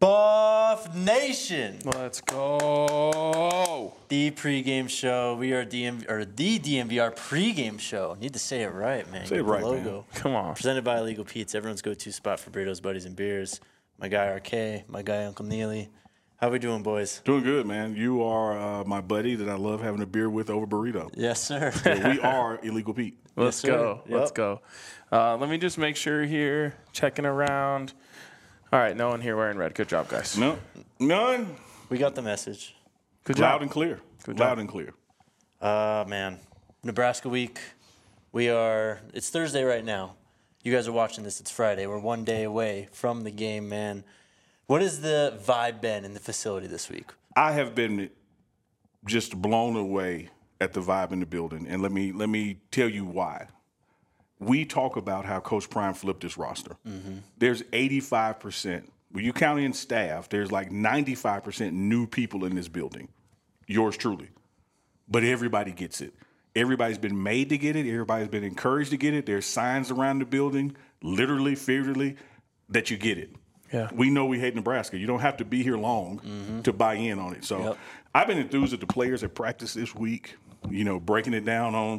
Buff Nation. Let's go. The pregame show. We are the DNVR pregame show. Need to say it right, man. Say it right, logo. man. Come on. Presented by Illegal Pete's, everyone's go-to spot for burritos, buddies, and beers. My guy RK, my guy Uncle Neely. How we doing, boys? Doing good, man. You are my buddy that I love having a beer with over burrito. Yes, sir. Yeah, we are Illegal Pete. Let's Yes, go. sir. Let's Yep. go. Let me just make sure here. Checking around. All right, no one here wearing red. Good job, guys. No, none. We got the message. Good Loud job. and clear. Good Loud job. and clear. Man. Nebraska week. It's Thursday right now. You guys are watching this. It's Friday. We're 1 day away from the game, man. What has the vibe been in the facility this week? I have been just blown away at the vibe in the building, and let me tell you why. We talk about how Coach Prime flipped this roster. Mm-hmm. There's 85%. When you count in staff, there's like 95% new people in this building. Yours truly. But everybody gets it. Everybody's been made to get it. Everybody's been encouraged to get it. There's signs around the building, literally, figuratively, that you get it. Yeah. We know we hate Nebraska. You don't have to be here long to buy in on it. So Yep. I've been enthused at the players at practice this week, breaking it down on,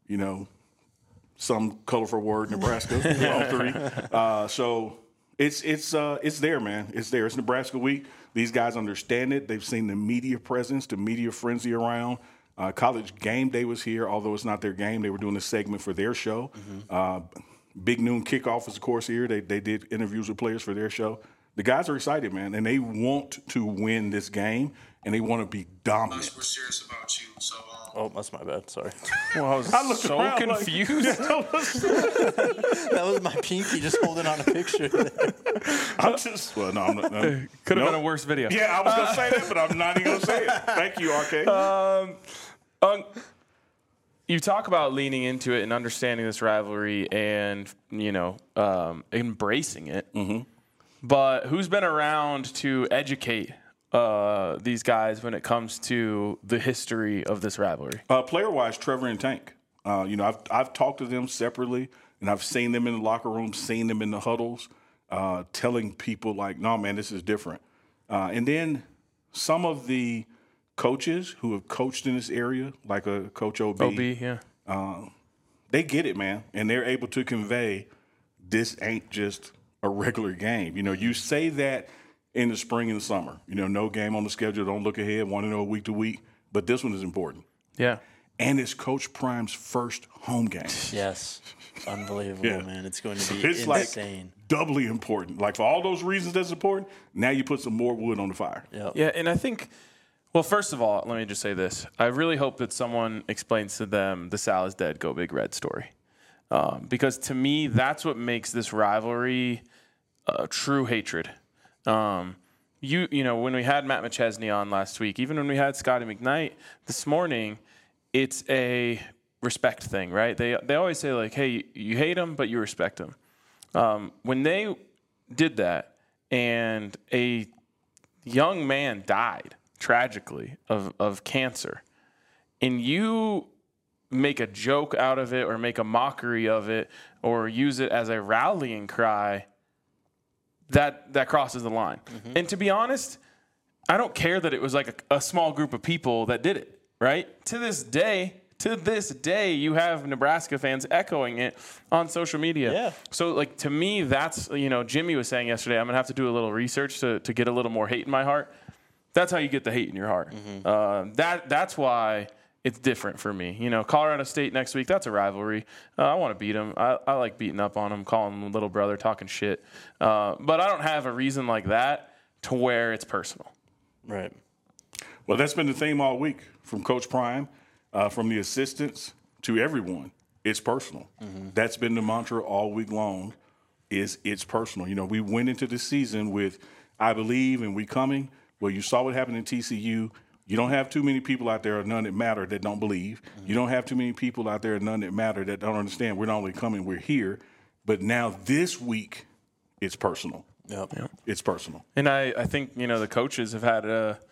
some colorful word, Nebraska, on three. So it's there, man. It's there. It's Nebraska week. These guys understand it. They've seen the media presence, the media frenzy around. College Game Day was here, although it's not their game. They were doing a segment for their show. Big Noon Kickoff is, of course, here. They did interviews with players for their show. The guys are excited, man, and they want to win this game, and they want to be dominant. We're serious about you, so Oh, that's my bad. Sorry. Well, I was looked so around like- confused. That was my pinky just holding on a picture. I'm just, well, no, I'm not. No. Could have Nope. been a worse video. Yeah, I was going to say that, but I'm not even going to say it. Thank you, RK. You talk about leaning into it and understanding this rivalry and, embracing it. Mm-hmm. But who's been around to educate these guys when it comes to the history of this rivalry? Player-wise, Trevor and Tank. I've talked to them separately, and I've seen them in the locker room, seen them in the huddles, telling people like, no, man, this is different. And then some of the coaches who have coached in this area, like a Coach OB, yeah. they get it, man, and they're able to convey this ain't just a regular game. You say that in the spring and the summer. No game on the schedule, don't look ahead, want to know week to week, but this one is important. Yeah. And it's Coach Prime's first home game. Yes. Unbelievable, Yeah. man. It's going to be It's insane. like doubly important. Like for all those reasons that's important, now you put some more wood on the fire. Yep. Yeah, and I think, well, first of all, let me just say this. I really hope that someone explains to them the Sal is dead, go Big Red story. Because to me, that's what makes this rivalry true hatred. When we had Matt McChesney on last week, even when we had Scotty McKnight this morning, it's a respect thing, right? They always say, like, hey, you hate him, but you respect him. When they did that and a young man died tragically of cancer, and you make a joke out of it or make a mockery of it or use it as a rallying cry, that crosses the line. Mm-hmm. And to be honest, I don't care that it was like a small group of people that did it, right? To this day, you have Nebraska fans echoing it on social media. Yeah. So, like, to me, that's, Jimmy was saying yesterday, I'm going to have to do a little research to get a little more hate in my heart. That's how you get the hate in your heart. Mm-hmm. That's why it's different for me. Colorado State next week, that's a rivalry. I want to beat them. I like beating up on them, calling them little brother, talking shit. But I don't have a reason like that to where it's personal. Right. Well, that's been the theme all week from Coach Prime, from the assistants to everyone. It's personal. Mm-hmm. That's been the mantra all week long, is it's personal. We went into the season with I believe and we coming. Well, you saw what happened in TCU. You don't have too many people out there, or none that matter, that don't believe. Mm-hmm. You don't have too many people out there, none that matter, that don't understand. We're not only coming, we're here. But now this week, it's personal. Yep. It's personal. And I think, the coaches have had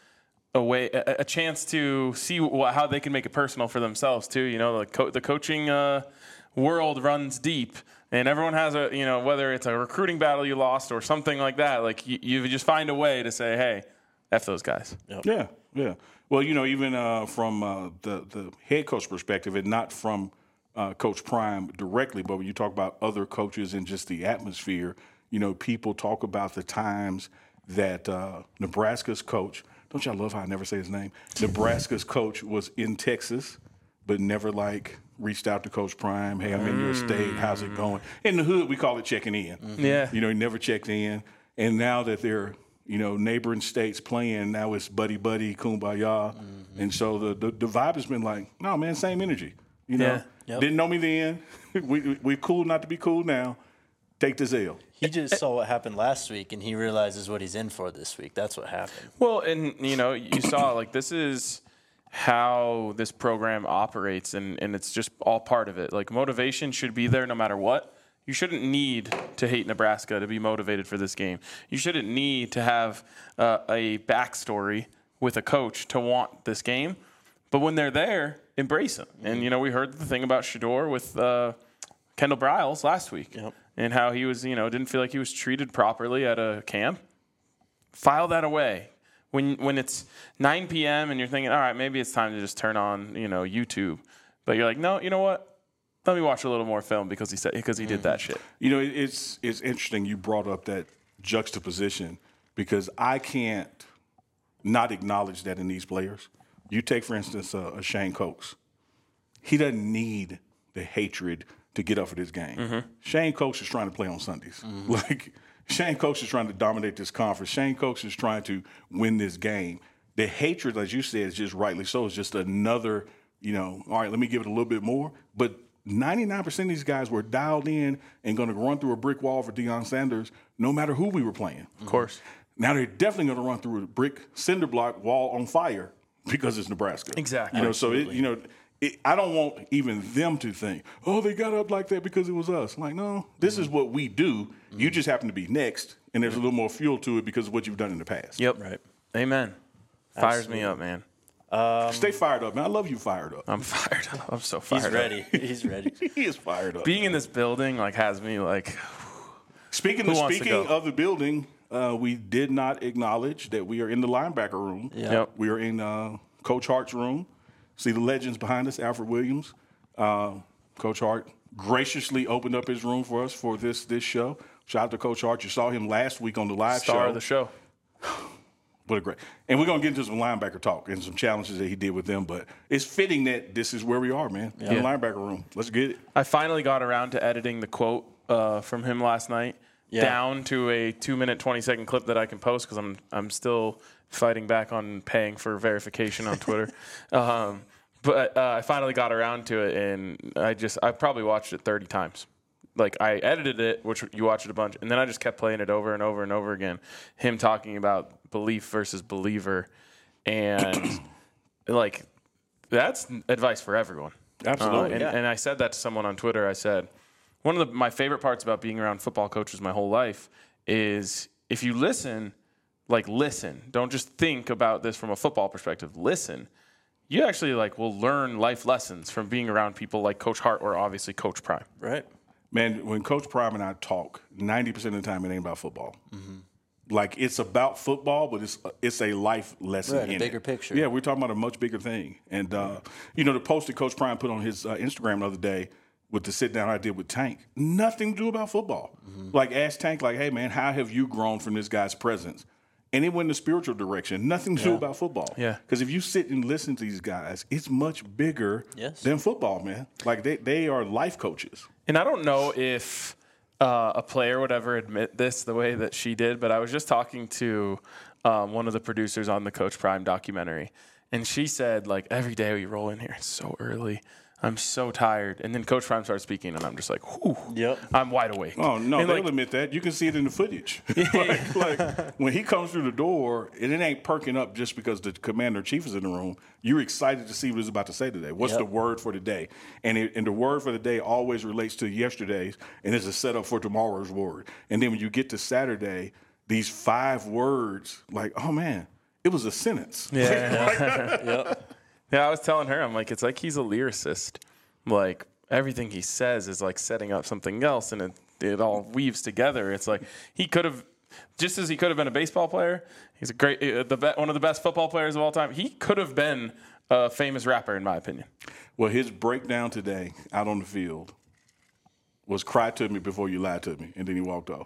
a chance to see how they can make it personal for themselves too. The coaching world runs deep, and everyone has a, whether it's a recruiting battle you lost or something like that, like you just find a way to say, hey, F those guys. Yep. Yeah. Well, even from the head coach perspective, and not from Coach Prime directly, but when you talk about other coaches and just the atmosphere, people talk about the times that Nebraska's coach, don't y'all love how I never say his name? Nebraska's coach was in Texas, but never reached out to Coach Prime. Hey, I'm in your state. How's it going? In the hood, we call it checking in. Yeah. He never checked in. And now that they're, neighboring states playing, now it's buddy, kumbaya. And so the vibe has been no, man, same energy. Didn't know me then. We're cool not to be cool now. Take the L. He just saw what happened last week, and he realizes what he's in for this week. That's what happened. Well, and, you saw, this is how this program operates, and it's just all part of it. Motivation should be there no matter what. You shouldn't need to hate Nebraska to be motivated for this game. You shouldn't need to have a backstory with a coach to want this game. But when they're there, embrace them. And, we heard the thing about Shedeur with Kendall Briles last week. Yep. And how he was, didn't feel like he was treated properly at a camp. File that away. When it's 9 p.m. and you're thinking, all right, maybe it's time to just turn on, YouTube. But you're like, no, you know what? Let me watch a little more film because he did that shit. It's interesting you brought up that juxtaposition because I can't not acknowledge that in these players. You take, for instance, a Shane Coates. He doesn't need the hatred to get up for this game. Shane Coates is trying to play on Sundays. Shane Coates is trying to dominate this conference. Shane Coates is trying to win this game. The hatred, as you said, is just rightly so. It's just another, all right, let me give it a little bit more. But 99% of these guys were dialed in and going to run through a brick wall for Deion Sanders no matter who we were playing. Of course. Now they're definitely going to run through a brick cinder block wall on fire because it's Nebraska. Exactly. So I don't want even them to think, oh, they got up like that because it was us. No, this is what we do. You just happen to be next, and there's a little more fuel to it because of what you've done in the past. Yep. Right. Amen. Fires me up, man. Stay fired up, man. I love you fired up. I'm fired up. I'm so fired up. He's ready. He's ready. He is fired up. Being in this building has me Speaking of the building, we did not acknowledge that we are in the linebacker room. Yep. We are in Coach Hart's room. See the legends behind us, Alfred Williams. Coach Hart graciously opened up his room for us for this show. Shout out to Coach Hart. You saw him last week on the live show. Star of the show. What a great. And we're going to get into some linebacker talk and some challenges that he did with them. But it's fitting that this is where we are, man, in the linebacker room. Let's get it. I finally got around to editing the quote from him last night down to a 2-minute, 20-second clip that I can post because I'm still fighting back on paying for verification on Twitter. But I finally got around to it, and I probably watched it 30 times. I edited it, which you watched it a bunch, and then I just kept playing it over and over and over again. Him talking about belief versus believer, and that's advice for everyone. Absolutely. And I said that to someone on Twitter. I said, one of my favorite parts about being around football coaches my whole life is if you listen, listen. Don't just think about this from a football perspective. Listen. You actually will learn life lessons from being around people like Coach Hart or obviously Coach Prime. Right. Man, when Coach Prime and I talk, 90% of the time it ain't about football. It's about football, but it's a life lesson Right, in a bigger it. picture. Yeah, we're talking about a much bigger thing. And, the post that Coach Prime put on his Instagram the other day with the sit-down I did with Tank, nothing to do about football. Ask Tank, hey, man, how have you grown from this guy's presence? And it went in the spiritual direction. Nothing to do about football. Yeah. Because if you sit and listen to these guys, it's much bigger than football, man. They are life coaches. And I don't know if a player would ever admit this the way that she did, but I was just talking to one of the producers on the Coach Prime documentary, and she said, every day we roll in here, it's so early. I'm so tired. And then Coach Prime starts speaking, and I'm just like, whew, I'm wide awake. Oh, no, and they'll admit that. You can see it in the footage. When he comes through the door, and it ain't perking up just because the commander-in-chief is in the room. You're excited to see what he's about to say today. What's the word for the day? And the word for the day always relates to yesterday's, and it's a setup for tomorrow's word. And then when you get to Saturday, these 5 words, oh, man, it was a sentence. Yeah. Yeah, I was telling her, I'm like, it's like he's a lyricist. everything he says is like setting up something else, and it all weaves together. It's like he could have, just as he could have been a baseball player, he's a great, one of the best football players of all time. He could have been a famous rapper, in my opinion. Well, his breakdown today out on the field was cry to me before you lie to me, and then he walked off.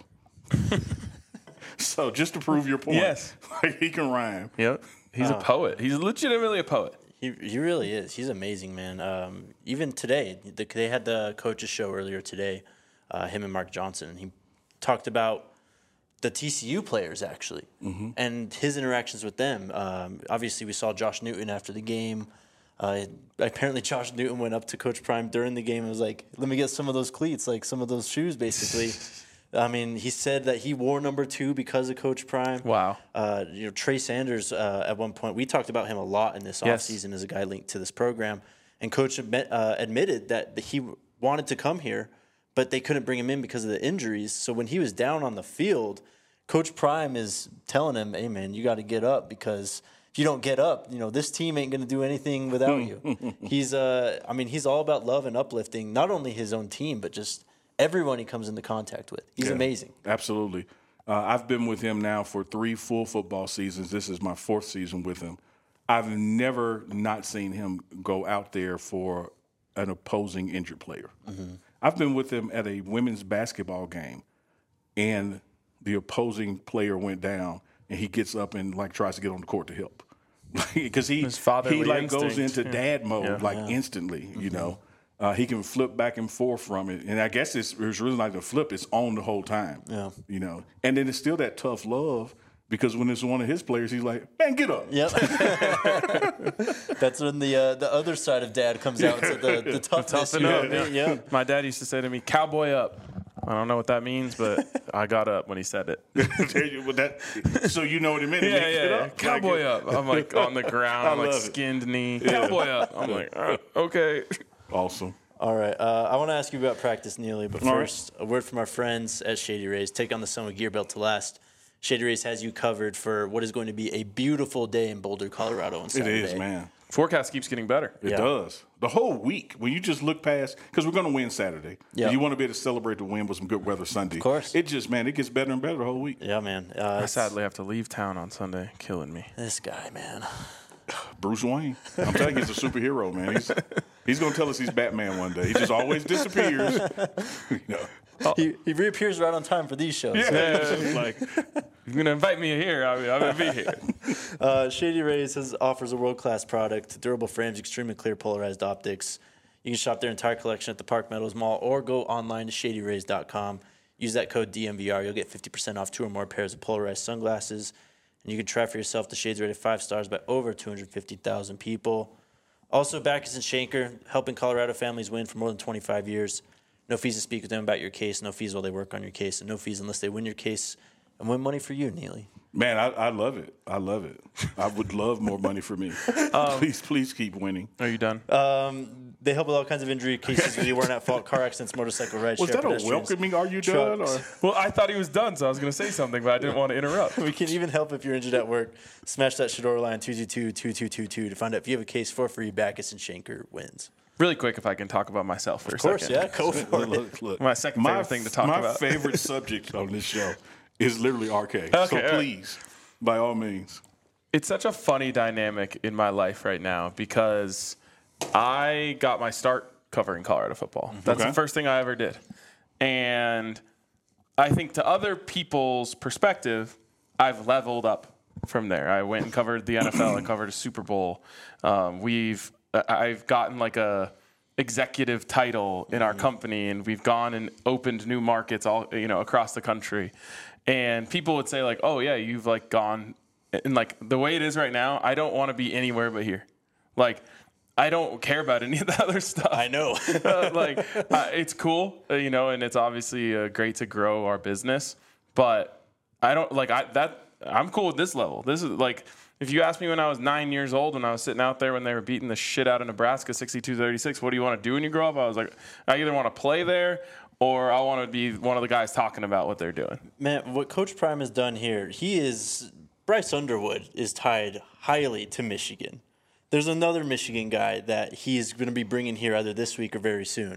So just to prove your point, Yes. like he can rhyme. Yep. He's a poet. He's legitimately a poet. He really is. He's amazing, man. Even today, they had the coaches show earlier today, him and Mark Johnson, and he talked about the TCU players actually and his interactions with them. Obviously, we saw Josh Newton after the game. Apparently, Josh Newton went up to Coach Prime during the game and was like, "Let me get some of those cleats, like some of those shoes, basically." I mean, he said that he wore number 2 because of Coach Prime. Wow. Trey Sanders, at one point, we talked about him a lot in this offseason as a guy linked to this program. And Coach admitted that he wanted to come here, but they couldn't bring him in because of the injuries. So when he was down on the field, Coach Prime is telling him, "Hey, man, you got to get up because if you don't get up, this team ain't going to do anything without you." He's all about love and uplifting, not only his own team, but just everyone he comes into contact with. He's amazing. Absolutely. I've been with him now for 3 full football seasons. This is my 4th season with him. I've never not seen him go out there for an opposing injured player. I've been with him at a women's basketball game, and the opposing player went down, and he gets up and tries to get on the court to help, because he goes into dad mode instantly. You know, he can flip back and forth from it, and I guess it's really like a flip. It's on the whole time. Yeah, you know, and then it's still that tough love. Because when it's one of his players, he's like, "Man, get up." Yep. That's when the other side of dad comes out to the toughness. Toughen up. Yeah. My dad used to say to me, "Cowboy up." I don't know what that means, but I got up when he said it. So you know what it meant. Yeah. Cowboy up. I'm like on the ground, like skinned knee. Cowboy up. I'm like, okay. Awesome. All right. I want to ask you about practice, Neely, but first, a word from our friends at Shady Rays. Take on the sun with gear built to last. Shady Rays has you covered for what is going to be a beautiful day in Boulder, Colorado on Saturday. It is, man. Forecast keeps getting better. It does. The whole week, when you just look past, because we're going to win Saturday. Yeah. You want to be able to celebrate the win with some good weather Sunday. Of course. It just, man, it gets better and better the whole week. Yeah, man. I sadly have to leave town on Sunday. Killing me. This guy, man. Bruce Wayne. I'm telling you, he's a superhero, man. He's going to tell us he's Batman one day. He just always disappears. He reappears right on time for these shows. Yeah. Like, you're going to invite me here, I'm going to be here. Shady Rays offers a world-class product, durable frames, extremely clear polarized optics. You can shop their entire collection at the Park Meadows Mall or go online to shadyrays.com. Use that code DMVR. You'll get 50% off 2 or more pairs of polarized sunglasses. And you can try for yourself the shades rated 5 stars by over 250,000 people. Also, Backus & Shanker, helping Colorado families win for more than 25 years. No fees to speak with them about your case. No fees while they work on your case. And no fees unless they win your case and win money for you, Neely. Man, I love it. I love it. I would love more money for me. Please keep winning. Are you done? They help with all kinds of injury cases where you weren't at fault, car accidents, motorcycle rides. Was that a welcoming, are you done? Or? Well, I thought he was done, so I was going to say something, but I didn't want to interrupt. We can even help if you're injured at work. Smash that Shador line 222-2222 to find out if you have a case for free. Backus & Shanker wins. Really quick, if I can talk about myself for a second. Of course, yeah. Go for it. Look. My second favorite thing to talk about. My favorite subject on this show is literally RK. Okay, so please, by all means. It's such a funny dynamic in my life right now because I got my start covering Colorado football. That's the first thing I ever did. And I think to other people's perspective, I've leveled up from there. I went and covered the NFL. I covered a Super Bowl. I've gotten like a executive title in our company, and we've gone and opened new markets all across the country. And people would say like, "Oh yeah, you've like gone," and like the way it is right now, I don't want to be anywhere but here. Like, I don't care about any of the other stuff. I know. It's cool, and it's obviously great to grow our business, but I don't I'm cool with this level. This is like, if you asked me when I was 9 years old, when I was sitting out there when they were beating the shit out of Nebraska 62-36, what do you want to do when you grow up? I was like, I either want to play there or I want to be one of the guys talking about what they're doing. Man, what Coach Prime has done here, Bryce Underwood is tied highly to Michigan. There's another Michigan guy that he's going to be bringing here either this week or very soon.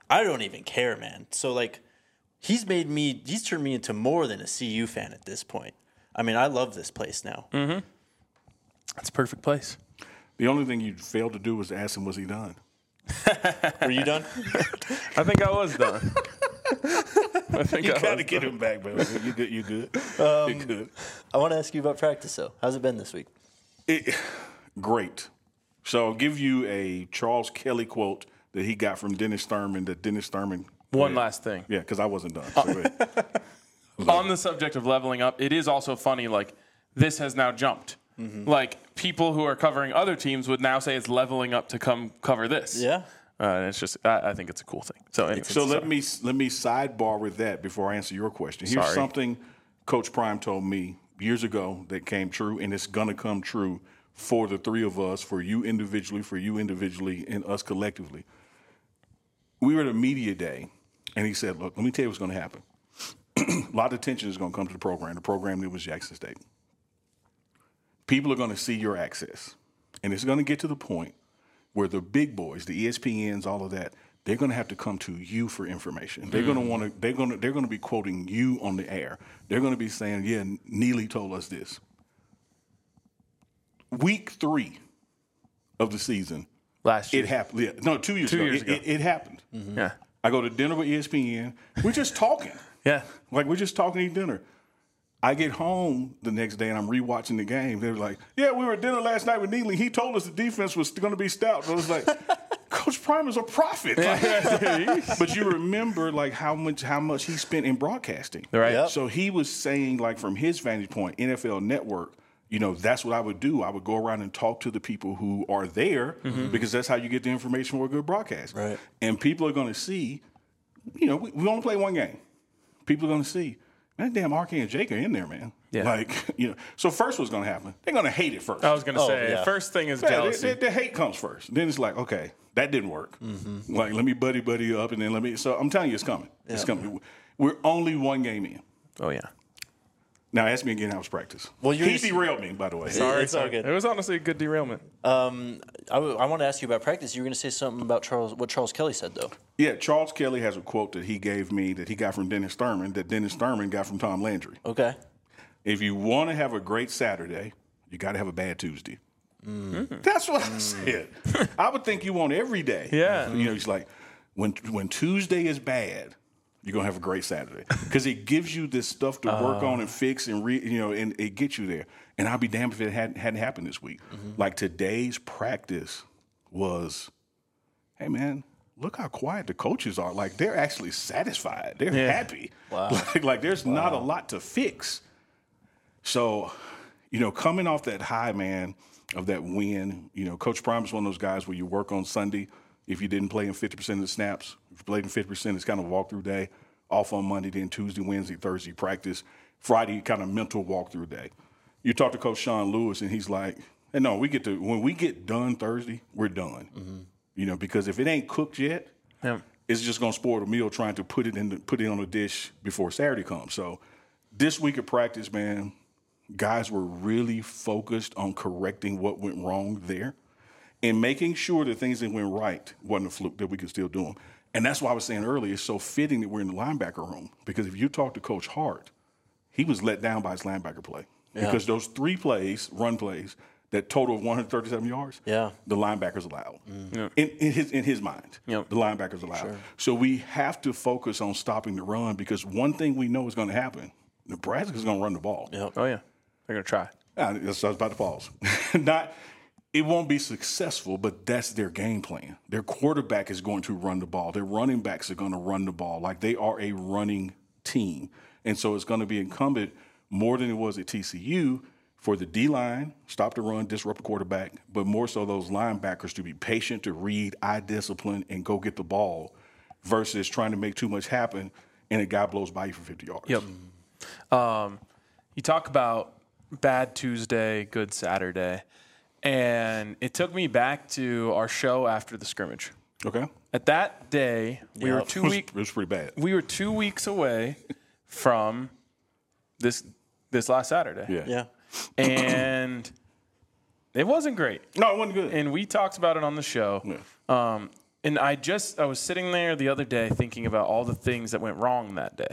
I don't even care, man. So like, he's turned me into more than a CU fan at this point. I mean, I love this place now. Mm-hmm. It's a perfect place. The only thing you failed to do was ask him, was he done? Were you done? I think I was done. You got to get him back, bro. You good? You good? You good? I want to ask you about practice, though. How's it been this week? Great. So I'll give you a Charles Kelly quote that he got from Dennis Thurman. One last thing. Yeah, because I wasn't done. So go ahead. On the subject of leveling up, it is also funny, like, this has now jumped. Mm-hmm. Like, people who are covering other teams would now say it's leveling up to come cover this. Yeah. And it's just, I think it's a cool thing. So, anyway, let me sidebar with that before I answer your question. Here's something Coach Prime told me years ago that came true, and it's going to come true for the three of us, for you individually, and us collectively. We were at a media day, and he said, look, let me tell you what's going to happen. A lot of attention is going to come to the program. The program that was Jackson State. People are going to see your access, and it's going to get to the point where the big boys, the ESPNs, all of that, they're going to have to come to you for information. They're going to want to. They're going to be quoting you on the air. They're going to be saying, "Yeah, Neely told us this." Week 3 of the season, last year, it happened. Yeah, no, 2 years ago. It happened. Mm-hmm. Yeah, I go to dinner with ESPN. We're just talking. Yeah, like we're just talking, eating dinner. I get home the next day and I'm rewatching the game. They're like, "Yeah, we were at dinner last night with Neely. He told us the defense was going to be stout." I was like, "Coach Prime is a prophet." Like, but you remember like how much he spent in broadcasting, right? Yep. So he was saying like from his vantage point, NFL Network. You know, that's what I would do. I would go around and talk to the people who are there because that's how you get the information for a good broadcast. Right. And people are going to see. You know, we only play one game. People are going to see. Man, damn, RK and Jake are in there, man. Yeah. Like, you know. So first what's going to happen? They're going to hate it first. I was going to say, first thing is jealousy. The hate comes first. Then it's like, okay, that didn't work. Mm-hmm. Like, let me buddy up, and then So I'm telling you, it's coming. Yeah. It's coming. We're only one game in. Oh, yeah. Now ask me again how was practice. Well, he derailed me, by the way. Sorry, it's all good. It was honestly a good derailment. I want to ask you about practice. You were going to say something about what Charles Kelly said, though. Yeah, Charles Kelly has a quote that he gave me that he got from Dennis Thurman that Dennis Thurman got from Tom Landry. Okay. If you want to have a great Saturday, you got to have a bad Tuesday. Mm. That's what I said. I would think you want every day. Yeah. You know, it's like when Tuesday is bad, you're going to have a great Saturday because it gives you this stuff to work on and fix and and it gets you there. And I'll be damned if it hadn't happened this week. Mm-hmm. Like today's practice was, hey, man, look how quiet the coaches are. Like they're actually satisfied. They're happy. Wow. Like there's not a lot to fix. So, you know, coming off that high, man, of that win, you know, Coach Prime is one of those guys where you work on Sunday. If you didn't play in 50% of the snaps, if you played in 50%, it's kind of a walkthrough day. Off on Monday, then Tuesday, Wednesday, Thursday practice. Friday, kind of mental walkthrough day. You talk to Coach Sean Lewis, and he's like, hey, no, when we get done Thursday, we're done. Mm-hmm. You know, because if it ain't cooked yet, it's just going to spoil the meal trying to put it on a dish before Saturday comes. So this week of practice, man, guys were really focused on correcting what went wrong there. And making sure that things that went right wasn't a fluke, that we could still do them. And that's why I was saying earlier, it's so fitting that we're in the linebacker room. Because if you talk to Coach Hart, he was let down by his linebacker play. Yeah. Because those 3 plays, run plays, that total of 137 yards, the linebackers allowed. Mm. In his mind, the linebackers allowed. Sure. So we have to focus on stopping the run because one thing we know is going to happen. Nebraska's going to run the ball. Yep. Oh, yeah. They're going to try. That's what I was about to pause. It won't be successful, but that's their game plan. Their quarterback is going to run the ball. Their running backs are going to run the ball. Like they are a running team. And so it's going to be incumbent more than it was at TCU for the D-line, stop the run, disrupt the quarterback, but more so those linebackers to be patient, to read, eye discipline, and go get the ball versus trying to make too much happen and a guy blows by you for 50 yards. Yep. You talk about bad Tuesday, good Saturday. And it took me back to our show after the scrimmage. Okay. At that day, we were 2 weeks. It was pretty bad. We were 2 weeks away from this last Saturday. Yeah. And it wasn't great. No, it wasn't good. And we talked about it on the show. Yeah. And I was sitting there the other day thinking about all the things that went wrong that day.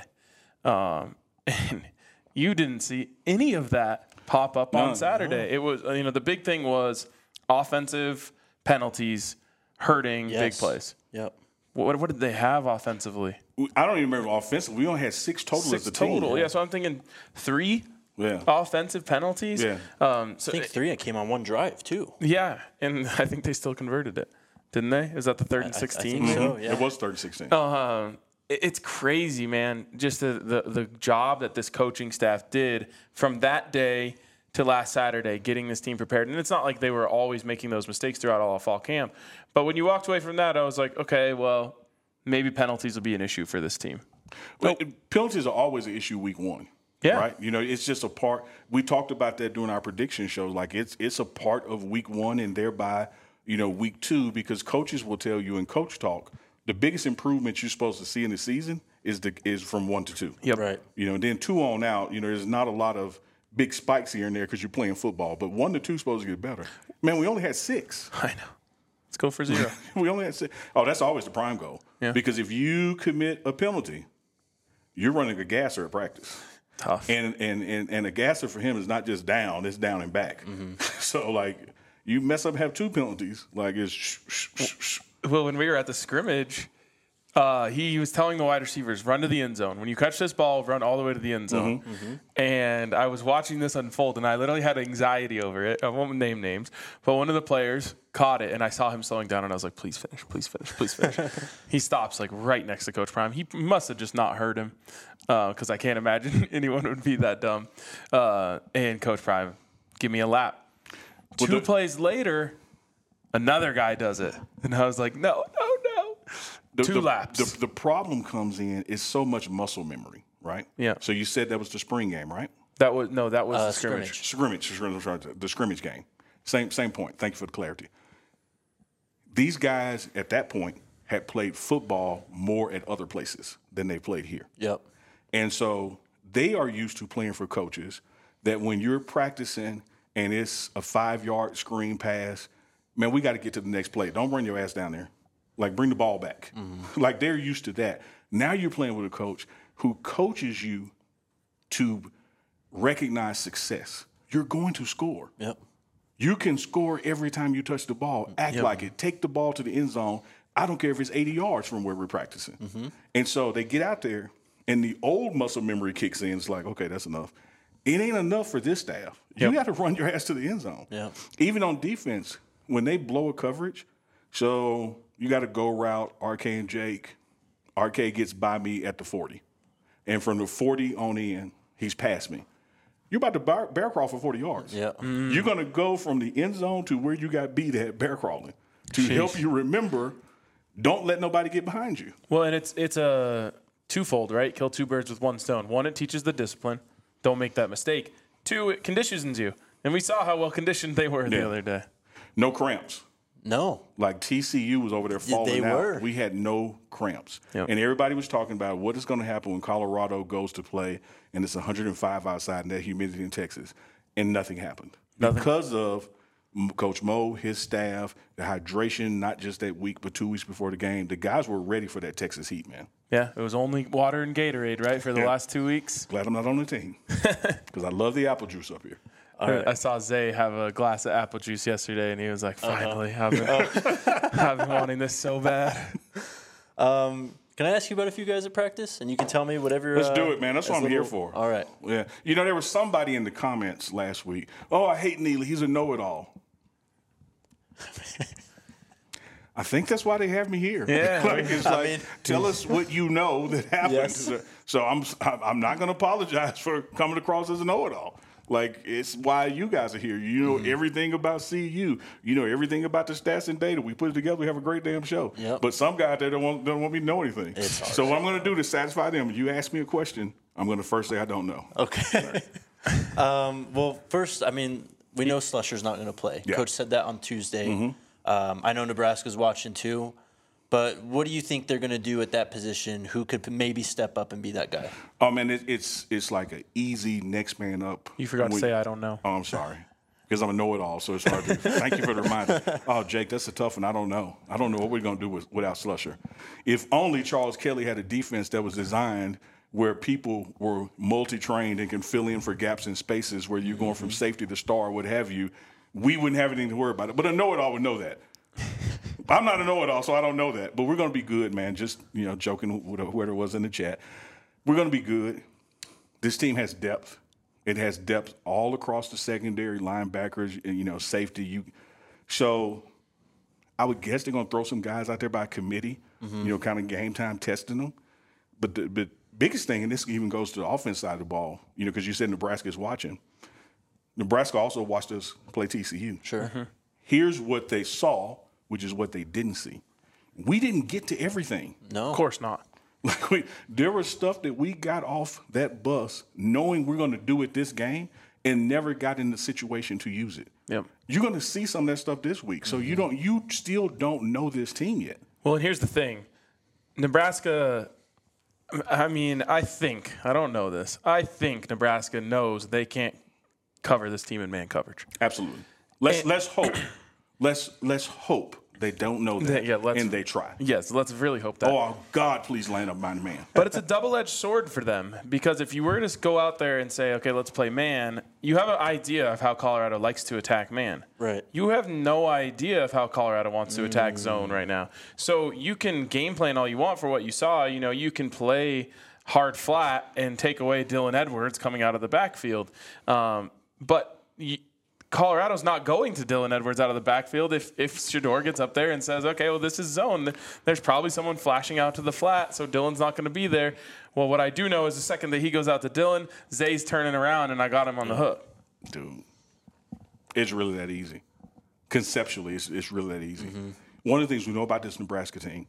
And you didn't see any of that pop up on Saturday. It was, the big thing was offensive penalties hurting big plays. Yep. What did they have offensively? I don't even remember offensively. We only had 6 total as a team. Yeah. So I'm thinking 3 offensive penalties. Yeah. I think 3 that came on one drive, too. Yeah. And I think they still converted it. Didn't they? Is that the 3rd and 16? I think so, yeah. It was 3rd and 16. It's crazy, man. Just the job that this coaching staff did from that day to last Saturday, getting this team prepared. And it's not like they were always making those mistakes throughout all of fall camp. But when you walked away from that, I was like, okay, well, maybe penalties will be an issue for this team. Well, penalties are always an issue week 1. Yeah. Right? It's just a part. We talked about that during our prediction shows. Like, it's a part of week 1 and thereby, week 2, because coaches will tell you in coach talk, the biggest improvement you're supposed to see in the season is from 1 to 2. Yep. Right. And then 2 on out, there's not a lot of big spikes here and there because you're playing football. But 1 to 2 is supposed to get better. Man, we only had 6. I know. Let's go for 0. We only had 6. Oh, that's always the prime goal. Yeah. Because if you commit a penalty, you're running a gasser at practice. Tough. And a gasser for him is not just down; it's down and back. So like, you mess up, have 2 penalties. Like it's. Well, when we were at the scrimmage, he was telling the wide receivers, run to the end zone. When you catch this ball, run all the way to the end zone. And I was watching this unfold, and I literally had anxiety over it. I won't name names, but one of the players caught it, and I saw him slowing down, and I was like, please finish, please finish, please finish. He stops like right next to Coach Prime. He must have just not heard him because I can't imagine anyone would be that dumb. And Coach Prime, give me a lap. Well, 2 plays later, another guy does it. And I was like, no. 2 laps. The problem comes in is so much muscle memory, right? Yeah. So you said that was the spring game, right? That was the scrimmage. The scrimmage game. Same point. Thank you for the clarity. These guys at that point had played football more at other places than they played here. Yep. And so they are used to playing for coaches that when you're practicing and it's a 5-yard screen pass, man, we got to get to the next play. Don't run your ass down there. Like, bring the ball back. Like, they're used to that. Now you're playing with a coach who coaches you to recognize success. You're going to score. Yep. You can score every time you touch the ball. Act like it. Take the ball to the end zone. I don't care if it's 80 yards from where we're practicing. And so they get out there, and the old muscle memory kicks in. It's like, okay, that's enough. It ain't enough for this staff. You got to run your ass to the end zone. Yep. Even on defense, when they blow a coverage, so you got to go route RK and Jake. RK gets by me at the 40. And from the 40 on in, he's past me. You're about to bear crawl for 40 yards. Yeah. You're going to go from the end zone to where you got beat at bear crawling to help you remember, don't let nobody get behind you. Well, and it's a twofold, right? Kill 2 birds with 1 stone. 1, it teaches the discipline. Don't make that mistake. 2, it conditions you. And we saw how well conditioned they were the other day. No cramps. No. Like TCU was over there falling they out. were. We had no cramps. Yep. And everybody was talking about what is going to happen when Colorado goes to play and it's 105 outside and that humidity in Texas. And nothing happened. Because of Coach Mo, his staff, the hydration, not just that week, but 2 weeks before the game. The guys were ready for that Texas heat, man. Yeah, it was only water and Gatorade, right, for the last 2 weeks. Glad I'm not on the team because I love the apple juice up here. Right. I saw Zay have a glass of apple juice yesterday, and he was like, finally, I've been wanting this so bad. Can I ask you about a few guys at practice? And you can tell me whatever. Let's do it, man. That's what I'm here for. All right. Yeah. There was somebody in the comments last week. Oh, I hate Neely. He's a know-it-all. I think that's why they have me here. Yeah. Tell us what you know that happened. Yes. So I'm not going to apologize for coming across as a know-it-all. Like, it's why you guys are here. You know everything about CU. You know everything about the stats and data. We put it together. We have a great damn show. Yep. But some guys, they don't want me to know anything. It's hard. So what I'm going to do to satisfy them, you ask me a question, I'm going to first say I don't know. Okay. Well, first, we know Slusher's not going to play. Yeah. Coach said that on Tuesday. I know Nebraska's watching too. But what do you think they're going to do at that position? Who could maybe step up and be that guy? Oh, man, it's like an easy next man up. You forgot to say I don't know. Oh, I'm sorry. because I'm a know-it-all, so it's hard to. Thank you for the reminder. Oh, Jake, that's a tough one. I don't know what we're going to do without Slusher. If only Charles Kelly had a defense that was designed where people were multi-trained and can fill in for gaps in spaces where you're going from safety to star, what have you, we wouldn't have anything to worry about it. But a know-it-all would know that. I'm not a know-it-all, so I don't know that. But we're going to be good, man. Just, joking with whoever was in the chat. We're going to be good. This team has depth. It has depth all across the secondary, linebackers, safety. So I would guess they're going to throw some guys out there by committee, kind of game time testing them. But the biggest thing, and this even goes to the offense side of the ball, because you said Nebraska is watching. Nebraska also watched us play TCU. Sure. Mm-hmm. Here's what they saw, which is what they didn't see. We didn't get to everything. No. Of course not. There was stuff that we got off that bus knowing we're going to do it this game and never got in the situation to use it. Yep. You're going to see some of that stuff this week. So you still don't know this team yet. Well, and here's the thing. Nebraska, I don't know this. I think Nebraska knows they can't cover this team in man coverage. Absolutely. Let's hope. Let's hope they don't know that and they try. Yes, let's really hope that. Oh, God, please land up my man. But it's a double-edged sword for them because if you were to go out there and say, okay, let's play man, you have an idea of how Colorado likes to attack man. Right. You have no idea of how Colorado wants to attack zone right now. So you can game plan all you want for what you saw. You can play hard flat and take away Dylan Edwards coming out of the backfield. But Colorado's not going to Dylan Edwards out of the backfield if Shedeur gets up there and says, okay, well, this is zone. There's probably someone flashing out to the flat, so Dylan's not going to be there. Well, what I do know is the second that he goes out to Dylan, Zay's turning around, and I got him on the hook. Dude, it's really that easy. Conceptually, it's really that easy. Mm-hmm. One of the things we know about this Nebraska team,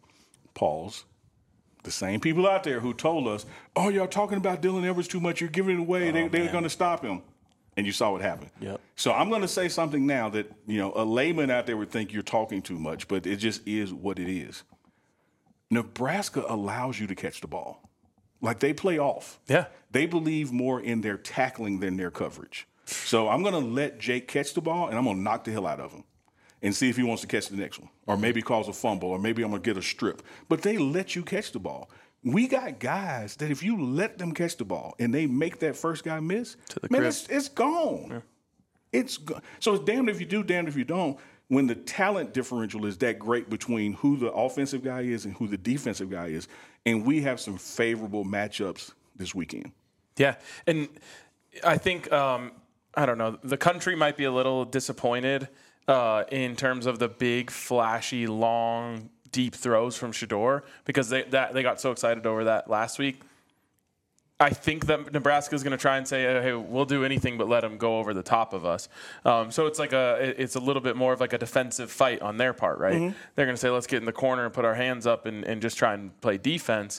the same people out there who told us, oh, y'all talking about Dylan Edwards too much, you're giving it away, they're going to stop him. And you saw what happened. Yep. So I'm going to say something now that, a layman out there would think you're talking too much, but it just is what it is. Nebraska allows you to catch the ball. Like, they play off. Yeah. They believe more in their tackling than their coverage. So I'm going to let Jake catch the ball, and I'm going to knock the hell out of him and see if he wants to catch the next one, or maybe cause a fumble, or maybe I'm going to get a strip. But they let you catch the ball. We got guys that if you let them catch the ball and they make that first guy miss, it's gone. Yeah. It's gone. So it's damned if you do, damned if you don't. When the talent differential is that great between who the offensive guy is and who the defensive guy is, and we have some favorable matchups this weekend. Yeah, and I think, I don't know, the country might be a little disappointed in terms of the big, flashy, long, deep throws from Shedeur because they got so excited over that last week. I think that Nebraska is going to try and say, hey, we'll do anything but let them go over the top of us. So it's it's a little bit more of like a defensive fight on their part, right? Mm-hmm. They're going to say, let's get in the corner and put our hands up and just try and play defense.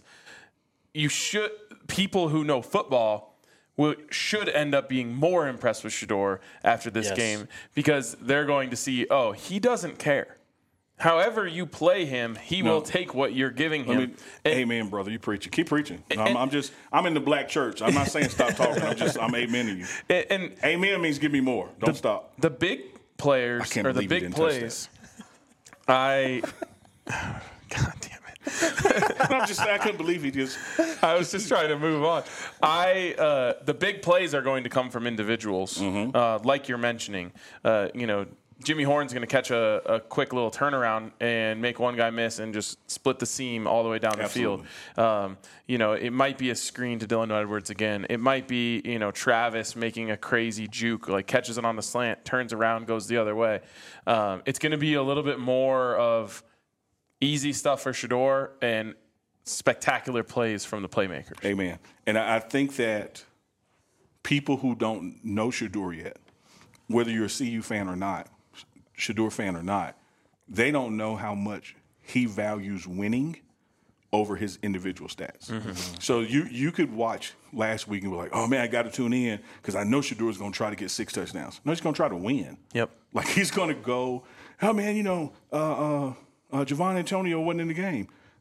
People who know football should end up being more impressed with Shedeur after this game because they're going to see, oh, he doesn't care. However you play him, he will take what you're giving him. Amen, brother. You preaching. Keep preaching. I'm in the black church. I'm not saying stop talking. I'm amening you. And amen means give me more. Don't stop. The big players or the big plays. God damn it. I couldn't believe he just. I was just trying to move on. The big plays are going to come from individuals, like you're mentioning. Jimmy Horn's going to catch a quick little turnaround and make one guy miss and just split the seam all the way down the field. It might be a screen to Dylan Edwards again. It might be, Travis making a crazy juke, like catches it on the slant, turns around, goes the other way. It's going to be a little bit more of easy stuff for Shedeur and spectacular plays from the playmakers. Amen. And I think that people who don't know Shedeur yet, whether you're a CU fan or not, Shedeur fan or not, they don't know how much he values winning over his individual stats. Mm-hmm. So you could watch last week and be like, oh, man, I got to tune in because I know Shedeur is going to try to get 6 touchdowns. No, he's going to try to win. Yep. Like he's going to go, oh, man, Javon Antonio wasn't in the game.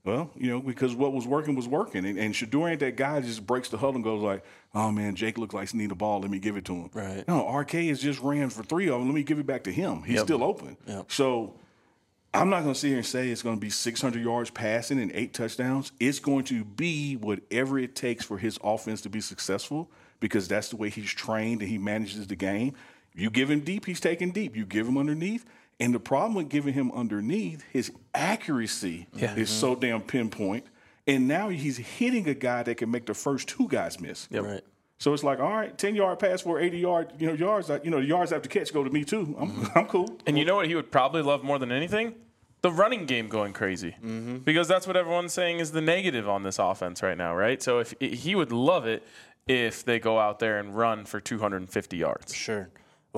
Well, because what was working was working. And Shador ain't that guy that just breaks the huddle and goes like, oh, man, Jake looks like he need the ball. Let me give it to him. Right. No, RK has just ran for 3 of them. Let me give it back to him. He's still open. Yep. So I'm not going to sit here and say it's going to be 600 yards passing and 8 touchdowns. It's going to be whatever it takes for his offense to be successful because that's the way he's trained and he manages the game. You give him deep, he's taking deep. You give him underneath. And the problem with giving him underneath, his accuracy is so damn pinpoint. And now he's hitting a guy that can make the first 2 guys miss. Yep. Right. So it's like, all right, 10-yard pass for 80-yard, yards. The yards after catch go to me too. I'm cool. And you know what he would probably love more than anything? The running game going crazy. Because that's what everyone's saying is the negative on this offense right now, right? So if he would love it if they go out there and run for 250 yards. Sure.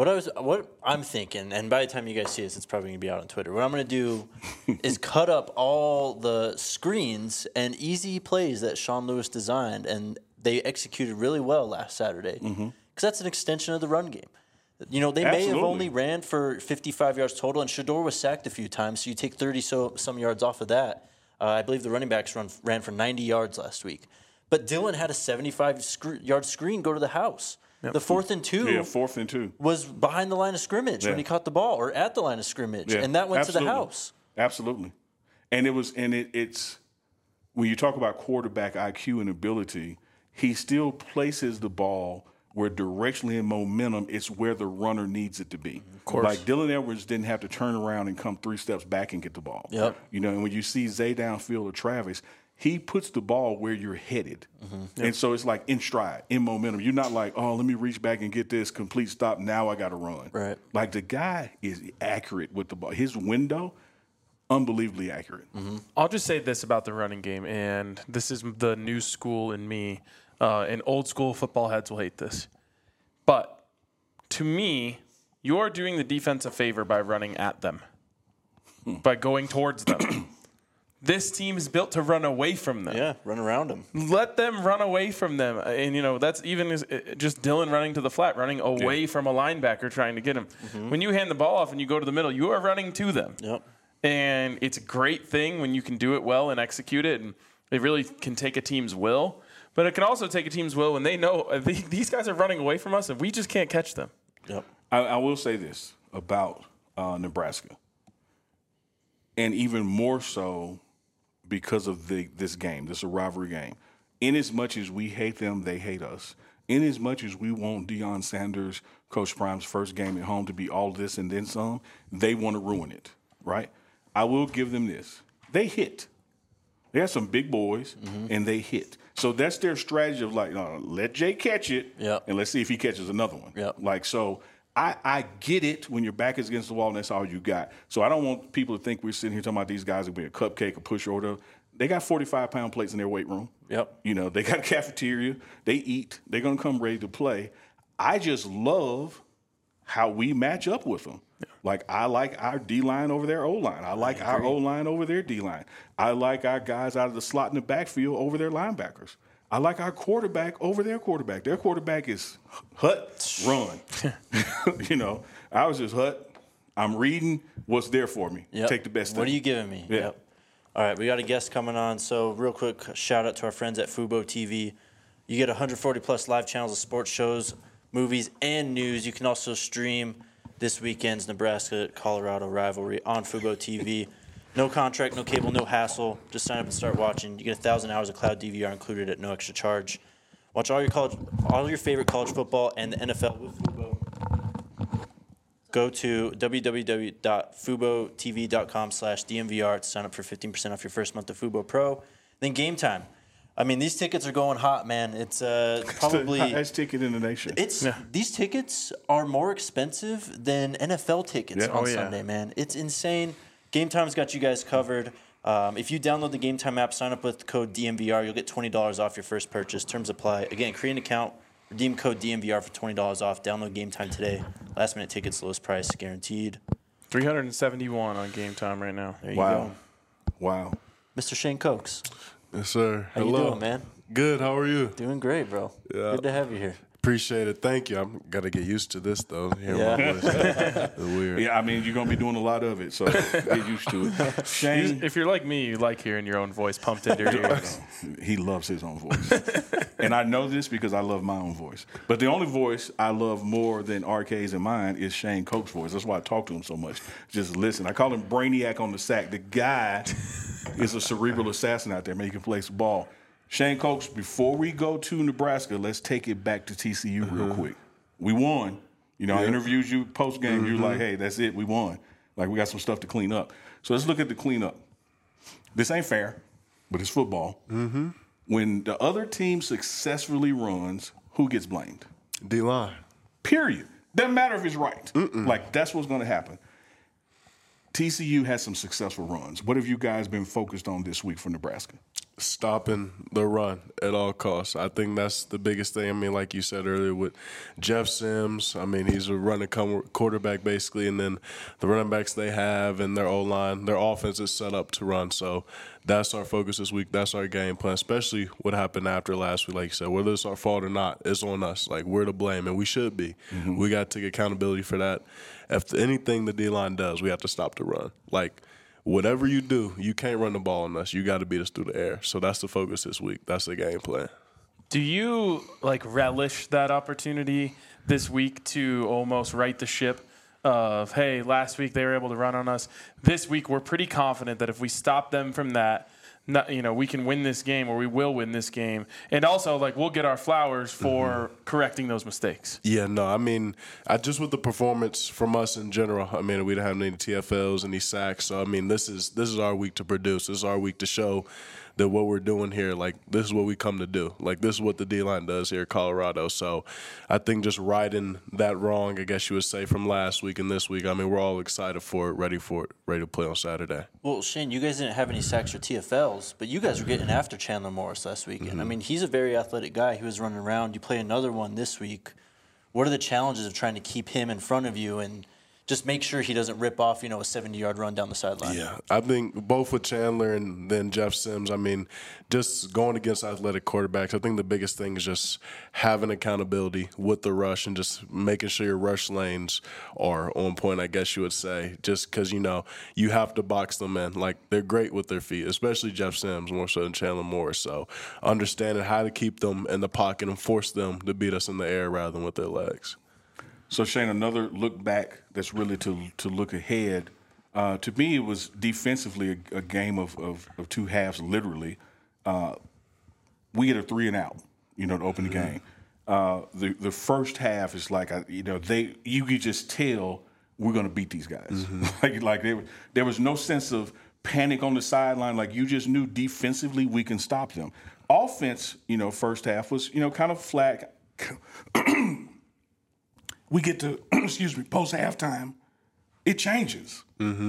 What I'm thinking, and by the time you guys see this, it's probably going to be out on Twitter. What I'm going to do is cut up all the screens and easy plays that Sean Lewis designed, and they executed really well last Saturday. Because that's an extension of the run game. They may have only ran for 55 yards total, and Shador was sacked a few times, so you take 30-some yards off of that. I believe the running backs ran for 90 yards last week. But Dillon had a 75-yard screen go to the house. Yep. The 4th and 2. Yeah, 4th and 2 was behind the line of scrimmage when he caught the ball, or at the line of scrimmage, and that went to the house. Absolutely, and it's when you talk about quarterback IQ and ability, he still places the ball where directionally and momentum it's where the runner needs it to be. Of course, like Dylan Edwards didn't have to turn around and come 3 steps back and get the ball. Yep. And when you see Zay downfield or Travis, he puts the ball where you're headed. Yep. And so it's like in stride, in momentum. You're not like, oh, let me reach back and get this complete stop. Now I got to run. Right. Like the guy is accurate with the ball. His window, unbelievably accurate. I'll just say this about the running game, and this is the new school in me. And old school football heads will hate this. But to me, you're doing the defense a favor by running at them, by going towards them. This team is built to run away from them. Yeah, run around them. Let them run away from them. And, that's even just Dylan running to the flat, running away from a linebacker trying to get him. When you hand the ball off and you go to the middle, you are running to them. Yep. And it's a great thing when you can do it well and execute it. And it really can take a team's will. But it can also take a team's will when they know these guys are running away from us and we just can't catch them. Yep. I will say this about Nebraska. And even more so because of this game, this rivalry game. In as much as we hate them, they hate us. In as much as we want Deion Sanders, Coach Prime's first game at home to be all this and then some, they want to ruin it, right? I will give them this. They hit. They have some big boys, and they hit. So that's their strategy of like, no, let Jay catch it, and let's see if he catches another one. Yep. Like, so I get it when your back is against the wall and that's all you got. So I don't want people to think we're sitting here talking about these guys are being a cupcake, a pusher, or whatever. They got 45-pound plates in their weight room. Yep. They got a cafeteria. They eat. They're going to come ready to play. I just love how we match up with them. Yeah. Like, I like our D-line over their O-line. I like our O-line over their D-line. I like our guys out of the slot in the backfield over their linebackers. I like our quarterback over their quarterback. Their quarterback is hut, run. I was just hut. I'm reading what's there for me. Yep. Take the best thing. What are you giving me? Yeah. Yep. All right, we got a guest coming on. So real quick, shout out to our friends at Fubo TV. You get 140-plus live channels of sports shows, movies, and news. You can also stream this weekend's Nebraska-Colorado rivalry on Fubo TV. No contract, no cable, no hassle. Just sign up and start watching. You get 1,000 hours of cloud DVR included at no extra charge. Watch all your favorite college football and the NFL with Fubo. Go to www.fubotv.com/DMVR to sign up for 15% off your first month of Fubo Pro. Then Game Time. I mean, these tickets are going hot, man. It's probably the highest ticket in the nation. These tickets are more expensive than NFL tickets on Sunday, man. It's insane. Game Time's got you guys covered. If you download the Game Time app, sign up with code DMVR, you'll get $20 off your first purchase. Terms apply. Again, create an account, redeem code DMVR for $20 off. Download Game Time today. Last minute tickets, lowest price guaranteed. $371 on Game Time right now. There you go. Wow. Mr. Shane Cokes. Yes, sir. How you doing, man? Good. How are you? Doing great, bro. Yeah. Good to have you here. Appreciate it. Thank you. I'm got to get used to this, though. Hearing my voice. It's weird. Yeah, I mean, you're going to be doing a lot of it, so get used to it. Shane, If you're like me, you like hearing your own voice pumped into your ears. he loves his own voice. And I know this because I love my own voice. But the only voice I love more than RK's and mine is Shane Koch's voice. That's why I talk to him so much. Just listen. I call him Brainiac on the sack. The guy is a cerebral assassin out there, man. He can play some ball. Shane Koch, before we go to Nebraska, let's take it back to TCU real quick. We won. You know, I interviewed you post-game. You're like, hey, that's it. We won. Like, we got some stuff to clean up. So let's look at the cleanup. This ain't fair, but it's football. When the other team successfully runs, who gets blamed? D-line. Period. Doesn't matter if it's right. Like, that's what's going to happen. TCU has some successful runs. What have you guys been focused on this week for Nebraska? Stopping the run at all costs. I think that's the biggest thing. I mean, like you said earlier with Jeff Sims, I mean, he's a running quarterback basically, and then the running backs they have and their O-line, their offense is set up to run. So that's our focus this week. That's our game plan, especially what happened after last week. Like you said, whether it's our fault or not, it's on us. Like, we're to blame, and we should be. We got to take accountability for that. If anything the D-line does, we have to stop the run. Like, whatever you do, you can't run the ball on us. You got to beat us through the air. So that's the focus this week. That's the game plan. Do you relish that opportunity this week to almost right the ship of, hey, last week they were able to run on us. This week we're pretty confident that if we stop them from that, we can win this game, or we will win this game. And also, we'll get our flowers for correcting those mistakes. Yeah, no, I mean, just with the performance from us in general, I mean, we don't have any TFLs, any sacks. So, I mean, this is our week to produce. This is our week to show that what we're doing here, this is what we come to do. This is what the D-line does here at Colorado. So I think just righting that wrong, I guess you would say, from last week and this week, I mean, we're all excited for it, ready to play on Saturday. Well, Shane, you guys didn't have any sacks or TFLs, but you guys were getting after Chandler Morris last weekend. I mean, he's a very athletic guy. He was running around. You play another one this week. What are the challenges of trying to keep him in front of you and just make sure he doesn't rip off, a 70-yard run down the sideline? Yeah, I think both with Chandler and then Jeff Sims, I mean, just going against athletic quarterbacks, I think the biggest thing is just having accountability with the rush and just making sure your rush lanes are on point, I guess you would say, just because, you have to box them in. They're great with their feet, especially Jeff Sims, more so than Chandler Morris. So understanding how to keep them in the pocket and force them to beat us in the air rather than with their legs. So, Shane, another look back that's really to look ahead. To me, it was defensively a game of two halves, literally. We get a 3-and-out, to open the game. The first half is you could just tell we're going to beat these guys. There was no sense of panic on the sideline. You just knew defensively we can stop them. Offense, first half was, kind of flat. We get to, post halftime, it changes.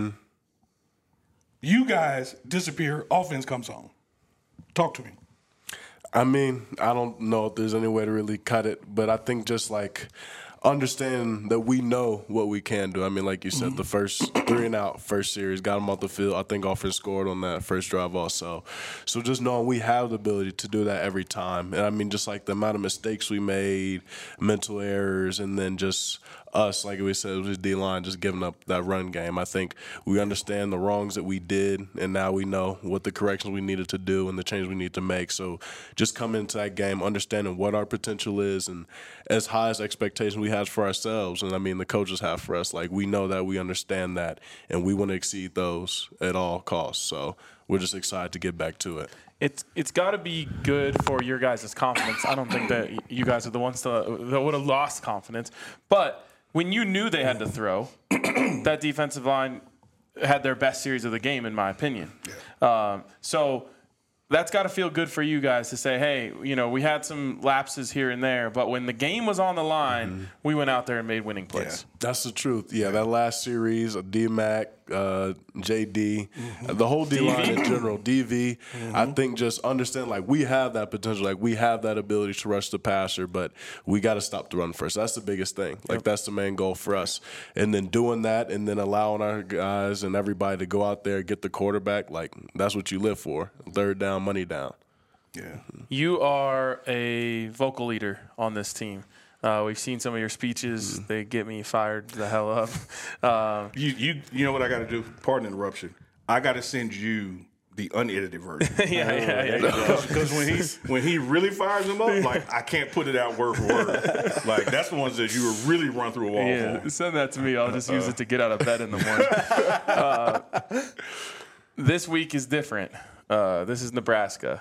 You guys disappear, offense comes on. Talk to me. I mean, I don't know if there's any way to really cut it, but I think just understanding that we know what we can do. I mean, like you said, the first 3-and-out, first series, got them off the field. I think offense scored on that first drive also. So just knowing we have the ability to do that every time. And I mean, just the amount of mistakes we made, mental errors, and then just us, like we said, it was just D-line just giving up that run game. I think we understand the wrongs that we did, and now we know what the corrections we needed to do and the changes we need to make. So just coming into that game, understanding what our potential is and as high as expectations we have for ourselves, and I mean the coaches have for us, we know that, we understand that, and we want to exceed those at all costs. So we're just excited to get back to it. It's got to be good for your guys' confidence. I don't think that you guys are the ones that would have lost confidence. But when you knew they had to throw, that defensive line had their best series of the game, in my opinion. Yeah. So that's got to feel good for you guys to say, hey, we had some lapses here and there, but when the game was on the line, we went out there and made winning plays. Yeah, that's the truth. Yeah, that last series, D-Mac, JD, the whole D-line in general, DV, I think just understand, we have that potential. We have that ability to rush the passer, but we got to stop the run first. That's the biggest thing. That's the main goal for us. And then doing that and then allowing our guys and everybody to go out there, get the quarterback, that's what you live for. Third down, money down. Yeah. You are a vocal leader on this team. We've seen some of your speeches. They get me fired the hell up. You know what I got to do? Pardon the interruption. I got to send you the unedited version. Yeah. Because when he really fires them up, like I can't put it out word for word. Like that's the ones that you would really run through a wall Yeah, for. send that to me. I'll just use it to get out of bed in the morning. This week is different. This is Nebraska.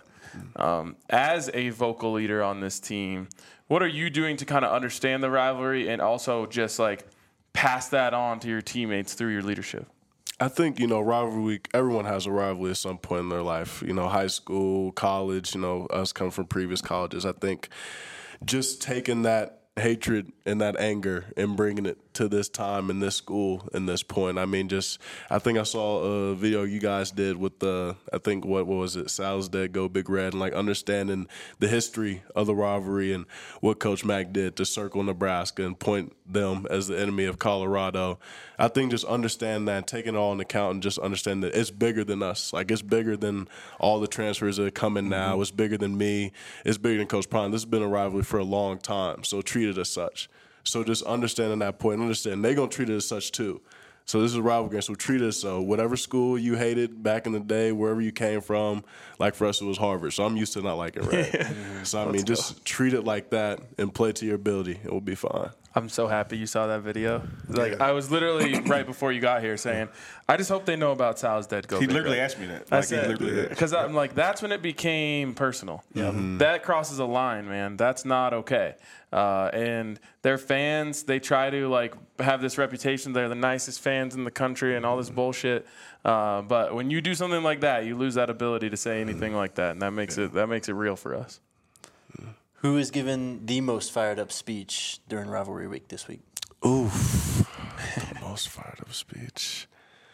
As a vocal leader on this team, what are you doing to kind of understand the rivalry and also just like pass that on to your teammates through your leadership? I think, rivalry week, everyone has a rivalry at some point in their life. High school, college, us coming from previous colleges. I think just taking that hatred and that anger and bringing it to this time in this school and this point. I mean, I think I saw a video you guys did with what was it? Sal's Dead, Go Big Red, and like understanding the history of the rivalry and what Coach Mack did to circle Nebraska and point them as the enemy of Colorado. I think just understand that, taking it all into account and just understand that it's bigger than us. Like it's bigger than all the transfers that are coming now. It's bigger than me. It's bigger than Coach Prime. This has been a rivalry for a long time, so treat it as such. So just understanding that point, understand they're going to treat it as such too. So this is a rivalry game, so treat it so. Whatever school you hated back in the day, wherever you came from, like for us it was Harvard, so I'm used to not liking red. So I mean, just treat it like that and play to your ability. It will be fine. I'm so happy you saw that video. Like I was literally right before you got here saying, I just hope they know about Sal's Dead, Go He Big literally Red. asked me that. I Like, said, he literally did. because I'm like, that's when it became personal. That crosses a line, man. That's not okay. And their fans, they try to like have this reputation. They're the nicest fans in the country and all this bullshit. But when you do something like that, you lose that ability to say anything like that, and that makes it real for us. Who is given the most fired up speech during rivalry week this week? Oof. The most fired up speech.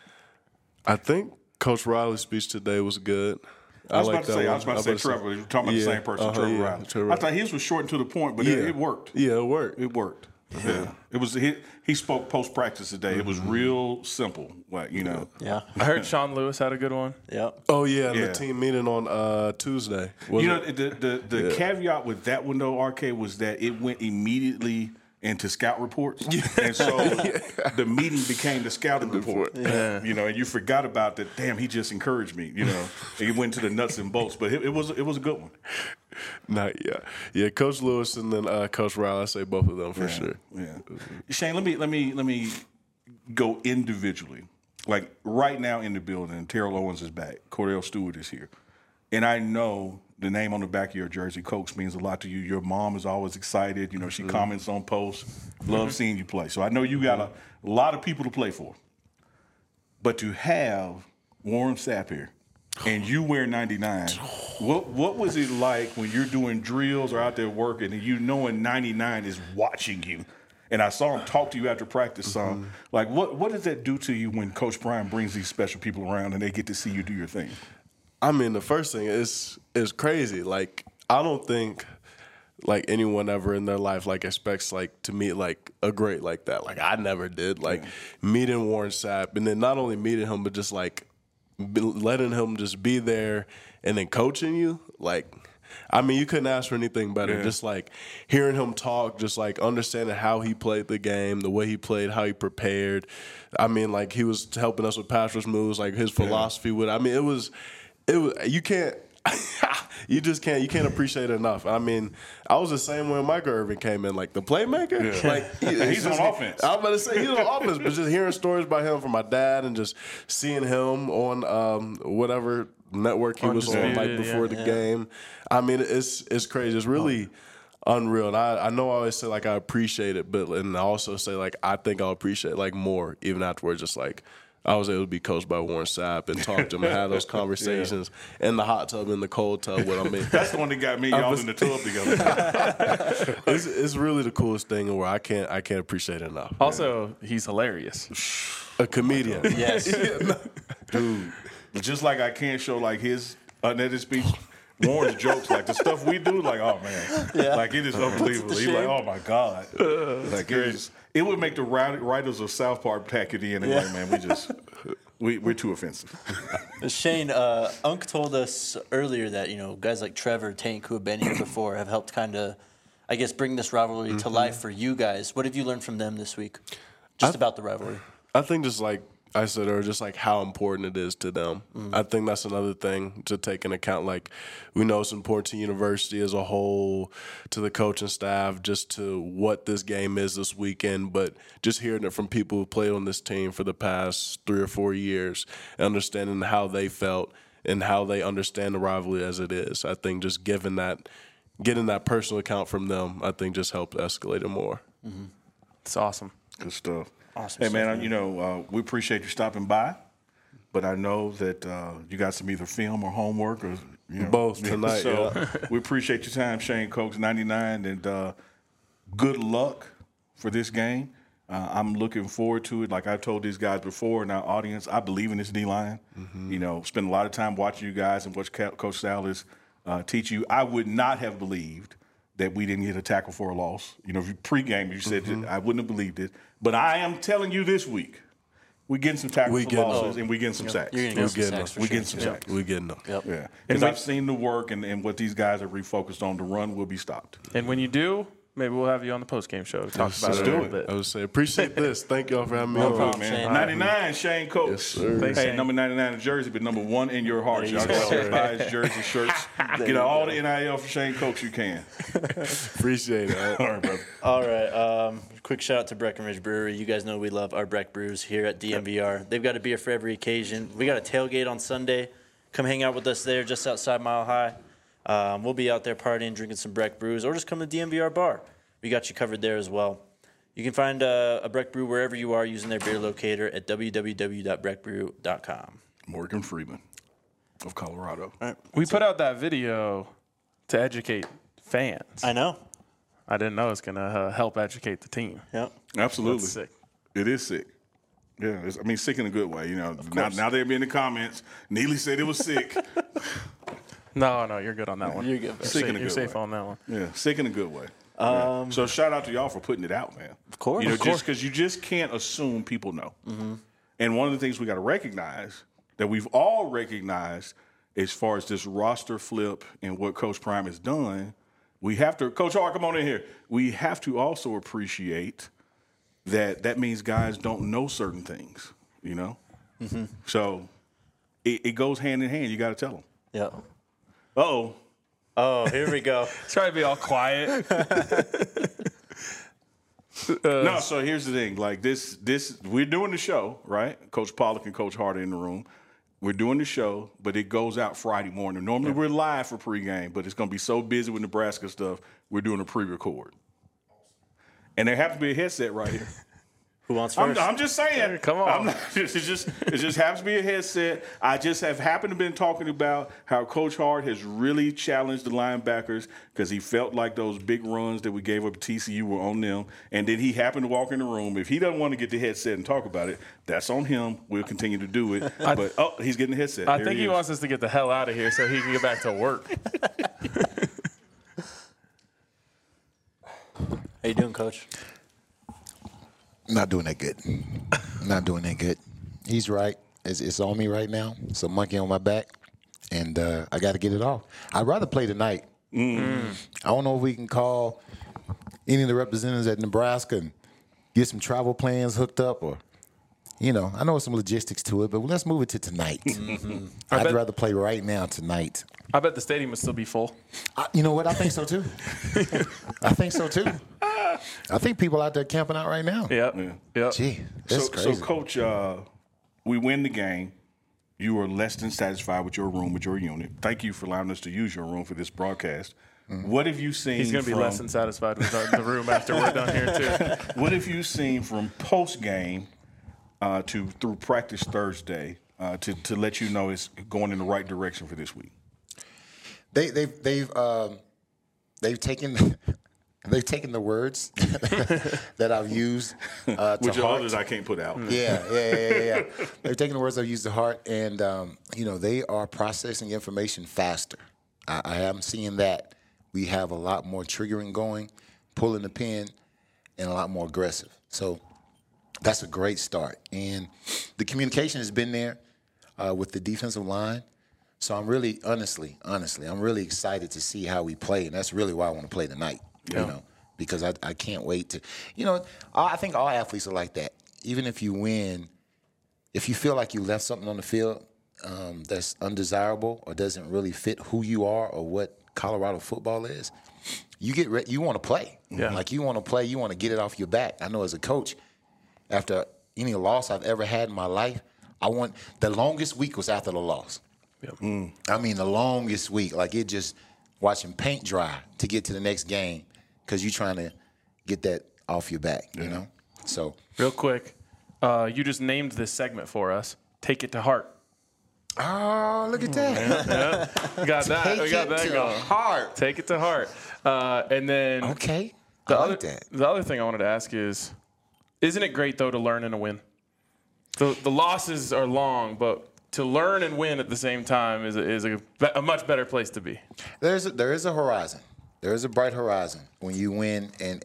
I think Coach Riley's speech today was good. I was about to say Trevor. We're talking about the same person, Trevor Riley. Trevor I thought his was short and to the point, but it worked. Yeah, it worked. It worked. Yeah, it was. He spoke post practice today. It was real simple. Like Yeah. I heard Sean Lewis had a good one. Yep. Oh yeah, Yeah. the team meeting on Tuesday. The caveat with that one though, RK, was that it went immediately into scout reports, and so the meeting became the scouting report. And you forgot about that. Damn, he just encouraged me. He went to the nuts and bolts, but it was a good one. Yeah. Coach Lewis and then Coach Riley. I say both of them for sure. Yeah, Shane, let me go individually. Like right now in the building, Terrell Owens is back. Cordell Stewart is here, and I know the name on the back of your jersey, Coach, means a lot to you. Your mom is always excited. She comments on posts. Love seeing you play. So I know you got a lot of people to play for. But to have Warren Sapp here and you wear 99, what was it like when you're doing drills or out there working and you knowing 99 is watching you? And I saw him talk to you after practice some. Like, what does that do to you when Coach Prime brings these special people around and they get to see you do your thing? I mean, the first thing is crazy. Like, I don't think like anyone ever in their life like expects like to meet like a great like that. Like I never did. Like meeting Warren Sapp and then not only meeting him but just like letting him just be there and then coaching you. Like, I mean, you couldn't ask for anything better. Yeah. Just like hearing him talk, just like understanding how he played the game, the way he played, how he prepared. I mean, like he was helping us with pass rush moves, like his philosophy with. I mean, it was you can't. You can't appreciate it enough. I mean, I was the same when Michael Irvin came in, like the playmaker. Yeah. Like he's on offense. I was about to say he's on offense, but just hearing stories about him from my dad and just seeing him on whatever network he was on like before the game. I mean, it's crazy. It's really unreal. And I know I always say like I appreciate it, but and I also say like I think I'll appreciate it like more even afterwards. Just like I was able to be coached by Warren Sapp and talk to him and have those conversations in the hot tub, in the cold tub with him. That's the one that got me y'all in the tub together. It's really the coolest thing where I can't appreciate it enough. Also, he's hilarious. A comedian. Yes. Dude, just like I can't show like his unedited speech, Warren's jokes, like the stuff we do, like, oh man. Like it is unbelievable. He's like, oh my God. Like it would make the writers of South Park pack it in anyway, man. We're too offensive. Shane, Unc told us earlier that, guys like Trevor, Tank, who have been here before, have helped kind of I guess, bring this rivalry to life for you guys. What have you learned from them this week? Just about the rivalry. I think just like I said, or just like how important it is to them. I think that's another thing to take into account. Like, we know it's important to university as a whole, to the coaching staff, just to what this game is this weekend. But just hearing it from people who played on this team for the past 3 or 4 years, understanding how they felt and how they understand the rivalry as it is. I think just getting that personal account from them, I think just helped escalate it more. It's awesome. Good stuff. Awesome Hey, man, stuff, we appreciate you stopping by, but I know that you got some either film or homework or Both tonight, So we appreciate your time, Shane Coates, 99, and good luck for this game. I'm looking forward to it. Like I told these guys before in our audience, I believe in this D-line. Spend a lot of time watching you guys and watch Coach Salas teach you. I would not have believed that we didn't get a tackle for a loss. If you pregame, you said that I wouldn't have believed it. But I am telling you this week, we're getting some tackles for losses and we're getting some sacks. You're going to get some sacks for We're sure. getting some sacks. We're getting them. Yep. Yeah. Because I've seen the work and what these guys are refocused on. The run will be stopped. And when you do, maybe we'll have you on the post-game show to talk about let's it a do little it. bit. I would say appreciate this. Thank y'all for having me No on. problem, man. Shane. 99, Shane Coates. Yes, sir. Thanks, Hey, Shane. number 99 in jersey, but number 1 in your heart. Y'all go. go buy his jersey, shirts. Get all the NIL for Shane Coates you can. Appreciate it. All right, brother. All right. Quick shout out to Breckenridge Brewery. You guys know we love our Breck brews here at DMVR. They've got a beer for every occasion. We got a tailgate on Sunday. Come hang out with us there just outside Mile High. We'll be out there partying, drinking some Breck brews, or just come to DMVR Bar. We got you covered there as well. You can find a Breck brew wherever you are using their beer locator at www.breckbrew.com. Morgan Freeman of Colorado. All right. We put out that video to educate fans. I know. I didn't know it's going to help educate the team. Yep. Absolutely. That's sick. It is sick. Yeah, sick in a good way. Now they'll be in the comments. Neely said it was sick. No, you're good on that one. You're good. You're Sick in a safe, you're good safe way. on that one. Yeah, sick in a good way. So shout out to y'all for putting it out, man. Of course. Just because you just can't assume people know. And one of the things we got to recognize that we've all recognized as far as this roster flip and what Coach Prime has done, we have to, Coach Hart, come on in here. We have to also appreciate that means guys don't know certain things, So it goes hand in hand. You got to tell them. Yep. Uh-oh. Oh, here we go. Try to be all quiet. No, so here's the thing. Like this, we're doing the show, right? Coach Pollock and Coach Hart are in the room. We're doing the show, but it goes out Friday morning. Normally we're live for pregame, but it's going to be so busy with Nebraska stuff, we're doing a pre-record. And there happens to be a headset right here. Who wants first? I'm just saying. Come on. It just happens to be a headset. I just have happened to been talking about how Coach Hart has really challenged the linebackers because he felt like those big runs that we gave up at TCU were on them. And then he happened to walk in the room. If he doesn't want to get the headset and talk about it, that's on him. We'll continue to do it. But he's getting the headset. I There think he is. wants us to get the hell out of here so he can get back to work. How you doing, Coach? Not doing that good. Not doing that good. He's right. It's on me right now. It's a monkey on my back, and I got to get it off. I'd rather play tonight. I don't know if we can call any of the representatives at Nebraska and get some travel plans hooked up, or I know there's some logistics to it, but let's move it to tonight. I'd rather play right now tonight. I bet the stadium would still be full. You know what? I think so too. I think so too. I think people out there camping out right now. Yep. Gee, that's crazy. So, Coach, we win the game. You are less than satisfied with your room, with your unit. Thank you for allowing us to use your room for this broadcast. What have you seen? He's going to be less than satisfied with the room after we're done here, too. What have you seen from post game through practice Thursday to let you know it's going in the right direction for this week? They've taken the words that I've used to Which heart. others I can't put out. Yeah. They're taking the words I've used to heart, and they are processing information faster. I am seeing that. We have a lot more triggering going, pulling the pin, and a lot more aggressive. So that's a great start. And the communication has been there with the defensive line. So I'm really, honestly, I'm really excited to see how we play, and that's really why I want to play tonight. You know, because I can't wait to, I think all athletes are like that. Even if you win, if you feel like you left something on the field that's undesirable or doesn't really fit who you are or what Colorado football is, you want to play. Yeah. Like you want to play, you want to get it off your back. I know as a coach, after any loss I've ever had in my life, the longest week was after the loss. Yep. I mean, the longest week, like it just watching paint dry to get to the next game because you're trying to get that off your back, you know? So, Real quick, you just named this segment for us. Take it to heart. oh, look at that. We got that. Take We got it that to going. heart. Take it to heart. And then Okay. the I other like that. the other thing I wanted to ask is, isn't it great though to learn and to win? The losses are long, but to learn and win at the same time is a much better place to be. There is a horizon. There is a bright horizon when you win and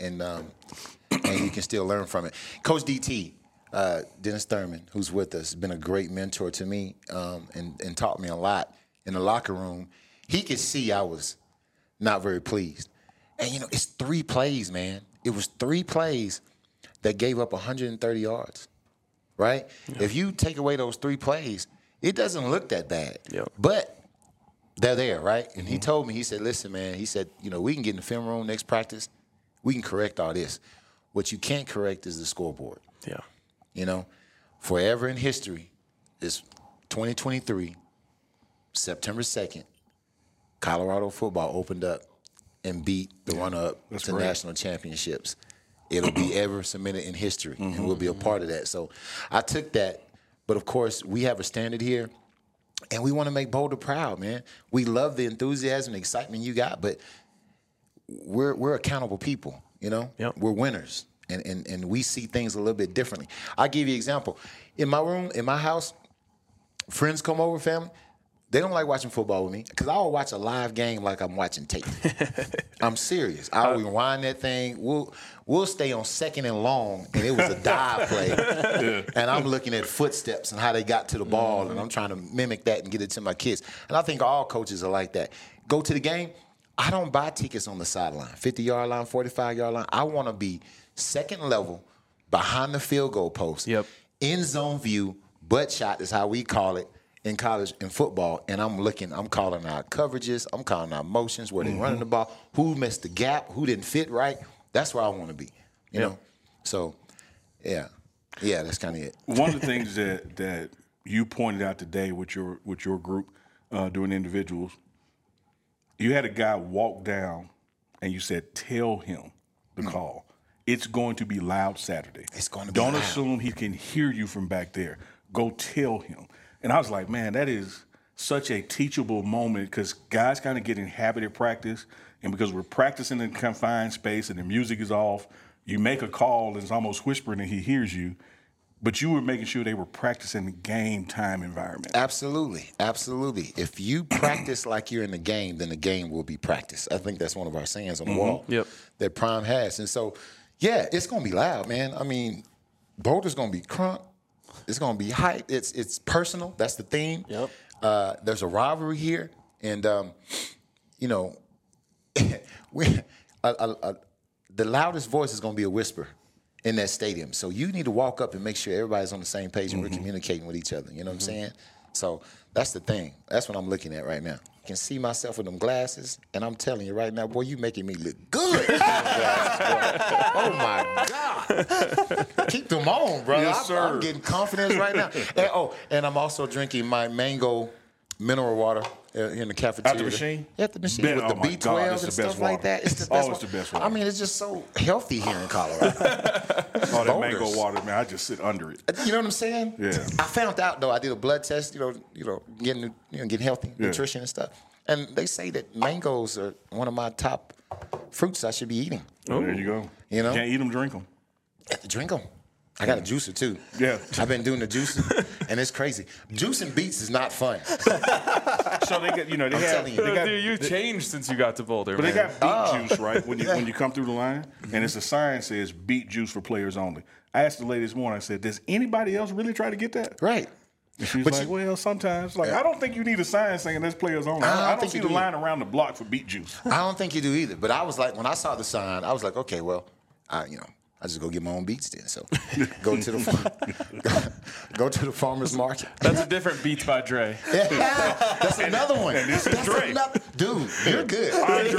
you can still learn from it. Coach DT, Dennis Thurman, who's with us, has been a great mentor to me and taught me a lot in the locker room. He could see I was not very pleased. And, it's 3 plays, man. It was 3 plays that gave up 130 yards, right? Yeah. If you take away those 3 plays, it doesn't look that bad. Yep. But they're there, right? And he told me, he said, listen, man, he said, we can get in the film room next practice. We can correct all this. What you can't correct is the scoreboard. Yeah. Forever in history, it's 2023, September 2nd, Colorado football opened up and beat the runner-up to national championships. It'll be ever cemented in history, and we'll be a part of that. So I took that. But, of course, we have a standard here, and we want to make Boulder proud, man. We love the enthusiasm and excitement you got, but we're accountable people, Yep. We're winners, and we see things a little bit differently. I'll give you an example. In my room, in my house, friends come over, family. They don't like watching football with me because I will watch a live game like I'm watching tape. I'm serious. I'll rewind that thing. We'll stay on 2nd and long, and it was a dive play. And I'm looking at footsteps and how they got to the ball, and I'm trying to mimic that and get it to my kids. And I think all coaches are like that. Go to the game. I don't buy tickets on the sideline, 50-yard line, 45-yard line. I want to be second level, behind the field goal post, Yep. end zone view, butt shot is how we call it in college in football, and I'm calling out coverages, I'm calling out motions, where they're running the ball, who missed the gap, who didn't fit right. That's where I want to be, you know? So, yeah, that's kind of it. One of the things that you pointed out today with your group doing individuals, you had a guy walk down and you said, tell him the call. It's going to be loud Saturday. It's going to be Don't loud. assume he can hear you from back there. Go tell him. And I was like, man, that is such a teachable moment because guys kind of get in habit of practice. And because we're practicing in a confined space and the music is off, you make a call and it's almost whispering and he hears you. But you were making sure they were practicing the game time environment. Absolutely. If you practice like you're in the game, then the game will be practiced. I think that's one of our sayings on the wall that Prime has. And so, it's going to be loud, man. I mean, Boulder's going to be crunk. It's going to be hype. It's personal. That's the theme. Yep. There's a rivalry here. And, the loudest voice is going to be a whisper in that stadium. So you need to walk up and make sure everybody's on the same page and we're communicating with each other. You know what I'm saying? So that's the thing. That's what I'm looking at right now. I can see myself with them glasses, and I'm telling you right now, boy, you making me look good. Glasses, oh, my God. Keep them on, bro. Yes, sir. I'm getting confidence right now. And I'm also drinking my mango mineral water in the cafeteria. At the machine? At the machine with the my B12 God, it's and the stuff best like water. that. It's the best It's the best water. I mean, it's just so healthy here in Colorado. That Boulders. mango water, man, I just sit under it. You know what I'm saying? Yeah. I found out though. I did a blood test. Getting healthy, nutrition and stuff. And they say that mangoes are one of my top fruits I should be eating. Oh, there you go. You know? Can't eat them, drink them. I have to drink them. I got a juicer too. Yeah. I've been doing the juicing, and it's crazy. Juicing beets is not fun. So they got, they have, telling you. they got, Dude, you've changed since you got to Boulder, but man. they got beet juice, right? When you come through the line, and it's a sign that says beet juice for players only. I asked the lady this morning. I said, "Does anybody else really try to get that?" Right. She's But like, well, sometimes. Like, I don't think you need a sign saying there's players on. I don't think see you the do line around the block for beet juice. I don't think you do either. But I was like, when I saw the sign, I was like, okay, well, I just go get my own beats then. So go to the farmer's market. That's a different Beats by Dre. That's another one. this is Dre. Dude, you're good.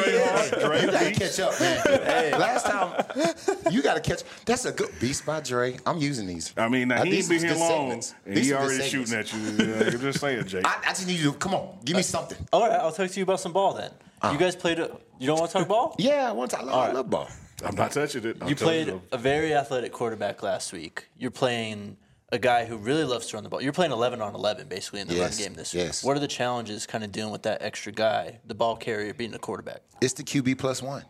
Dre You gotta Beats. catch up, man. Last time, you gotta catch. That's a good Beats by Dre. I'm using these. I mean, now he These ain't been is here good long, segments. and These he are good already shooting segments. at you. Just say it, Jake. I just need you to come on. Give me something. All right, I'll talk to you about some ball then. You guys played. You don't want to talk ball? Yeah, I love ball. I'm not touching it. You played a very athletic quarterback last week. You're playing a guy who really loves to run the ball. You're playing 11 on 11 basically in the run game this week. Yes. What are the challenges kind of dealing with that extra guy, the ball carrier, being a quarterback? It's the QB plus one.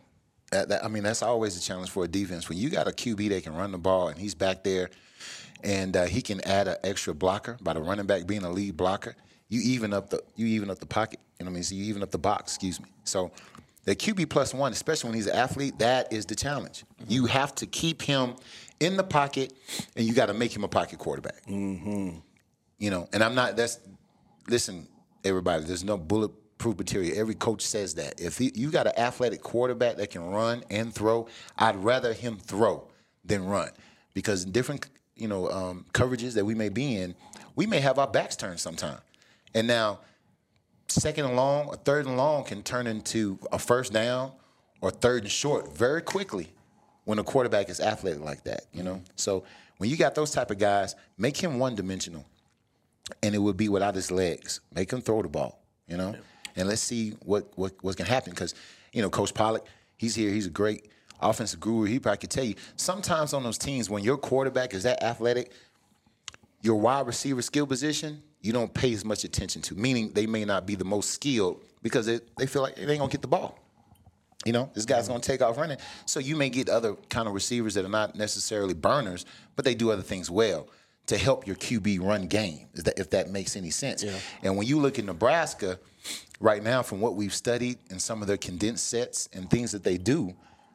That's always a challenge for a defense. When you got a QB that can run the ball and he's back there and he can add an extra blocker by the running back being a lead blocker, you even up the pocket. You know what I mean? So you even up the box, excuse me. So the QB plus one, especially when he's an athlete, that is the challenge. Mm-hmm. You have to keep him in the pocket, and you got to make him a pocket quarterback. Mm-hmm. You know, and listen, everybody, there's no bulletproof material. Every coach says that. If you got an athletic quarterback that can run and throw, I'd rather him throw than run, because in different coverages that we may be in, we may have our backs turned sometime. And now, second and long or third and long can turn into a first down or third and short very quickly when a quarterback is athletic like that, you know? So when you got those type of guys, make him one-dimensional, and it would be without his legs. Make him throw the ball, you know? And let's see what can happen, because, Coach Pollock, he's here. He's a great offensive guru. He probably could tell you, sometimes on those teams, when your quarterback is that athletic, your wide receiver skill position, you don't pay as much attention to, meaning they may not be the most skilled because they feel like they ain't going to get the ball. This guy's going to take off running. So you may get other kind of receivers that are not necessarily burners, but they do other things well to help your QB run game, if that makes any sense. Yeah. And when you look at Nebraska right now, from what we've studied and some of their condensed sets and things that they do,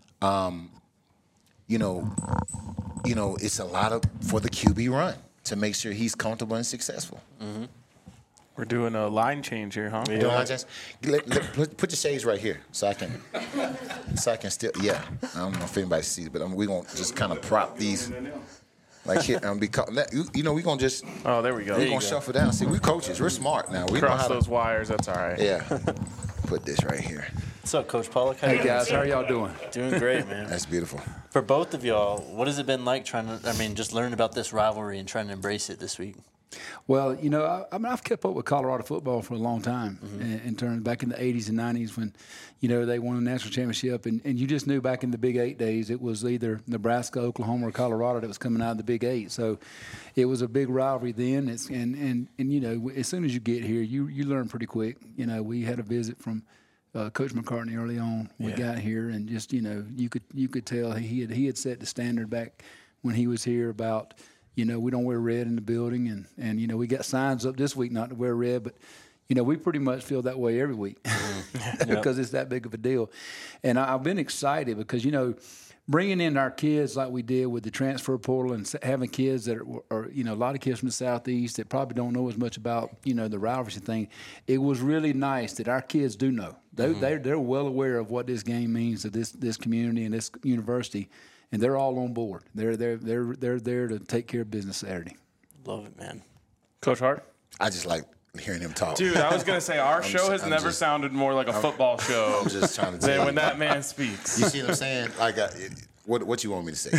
it's a lot for the QB run to make sure he's comfortable and successful. Mm-hmm. We're doing a line change here, huh? Yeah. Put your shades right here so I can still. Yeah, I don't know if anybody sees, but we're gonna just kind of prop these like here and we're gonna just. Oh, there we go. We're gonna shuffle down. See, we're coaches. We're smart now. We cross know how those wires. That's all right. Yeah. Put this right here. What's up, Coach Pollock? Hey guys, how are y'all doing? Doing great, man. That's beautiful. For both of y'all, what has it been like just learning about this rivalry and trying to embrace it this week? Well, I've kept up with Colorado football for a long time. Mm-hmm. In terms back in the 80s and 90s when, they won the national championship, and you just knew back in the Big 8 days it was either Nebraska, Oklahoma, or Colorado that was coming out of the Big 8. So it was a big rivalry then. As soon as you get here, you learn pretty quick. We had a visit from Coach McCartney early on. We got here, and just you could tell he had set the standard back when he was here about. We don't wear red in the building, and we got signs up this week not to wear red, but we pretty much feel that way every week because it's that big of a deal. And I've been excited because bringing in our kids like we did with the transfer portal and having kids that are a lot of kids from the Southeast that probably don't know as much about the rivalry thing. It was really nice that our kids do know. They're well aware of what this game means to this community and this university. And they're all on board. They're there to take care of business Saturday. Love it, man. Coach Hart? I just like hearing him talk. Dude, I was going to say, our show has never sounded more like a football show I'm just trying to than tell when that man speaks. You see what I'm saying? What you want me to say?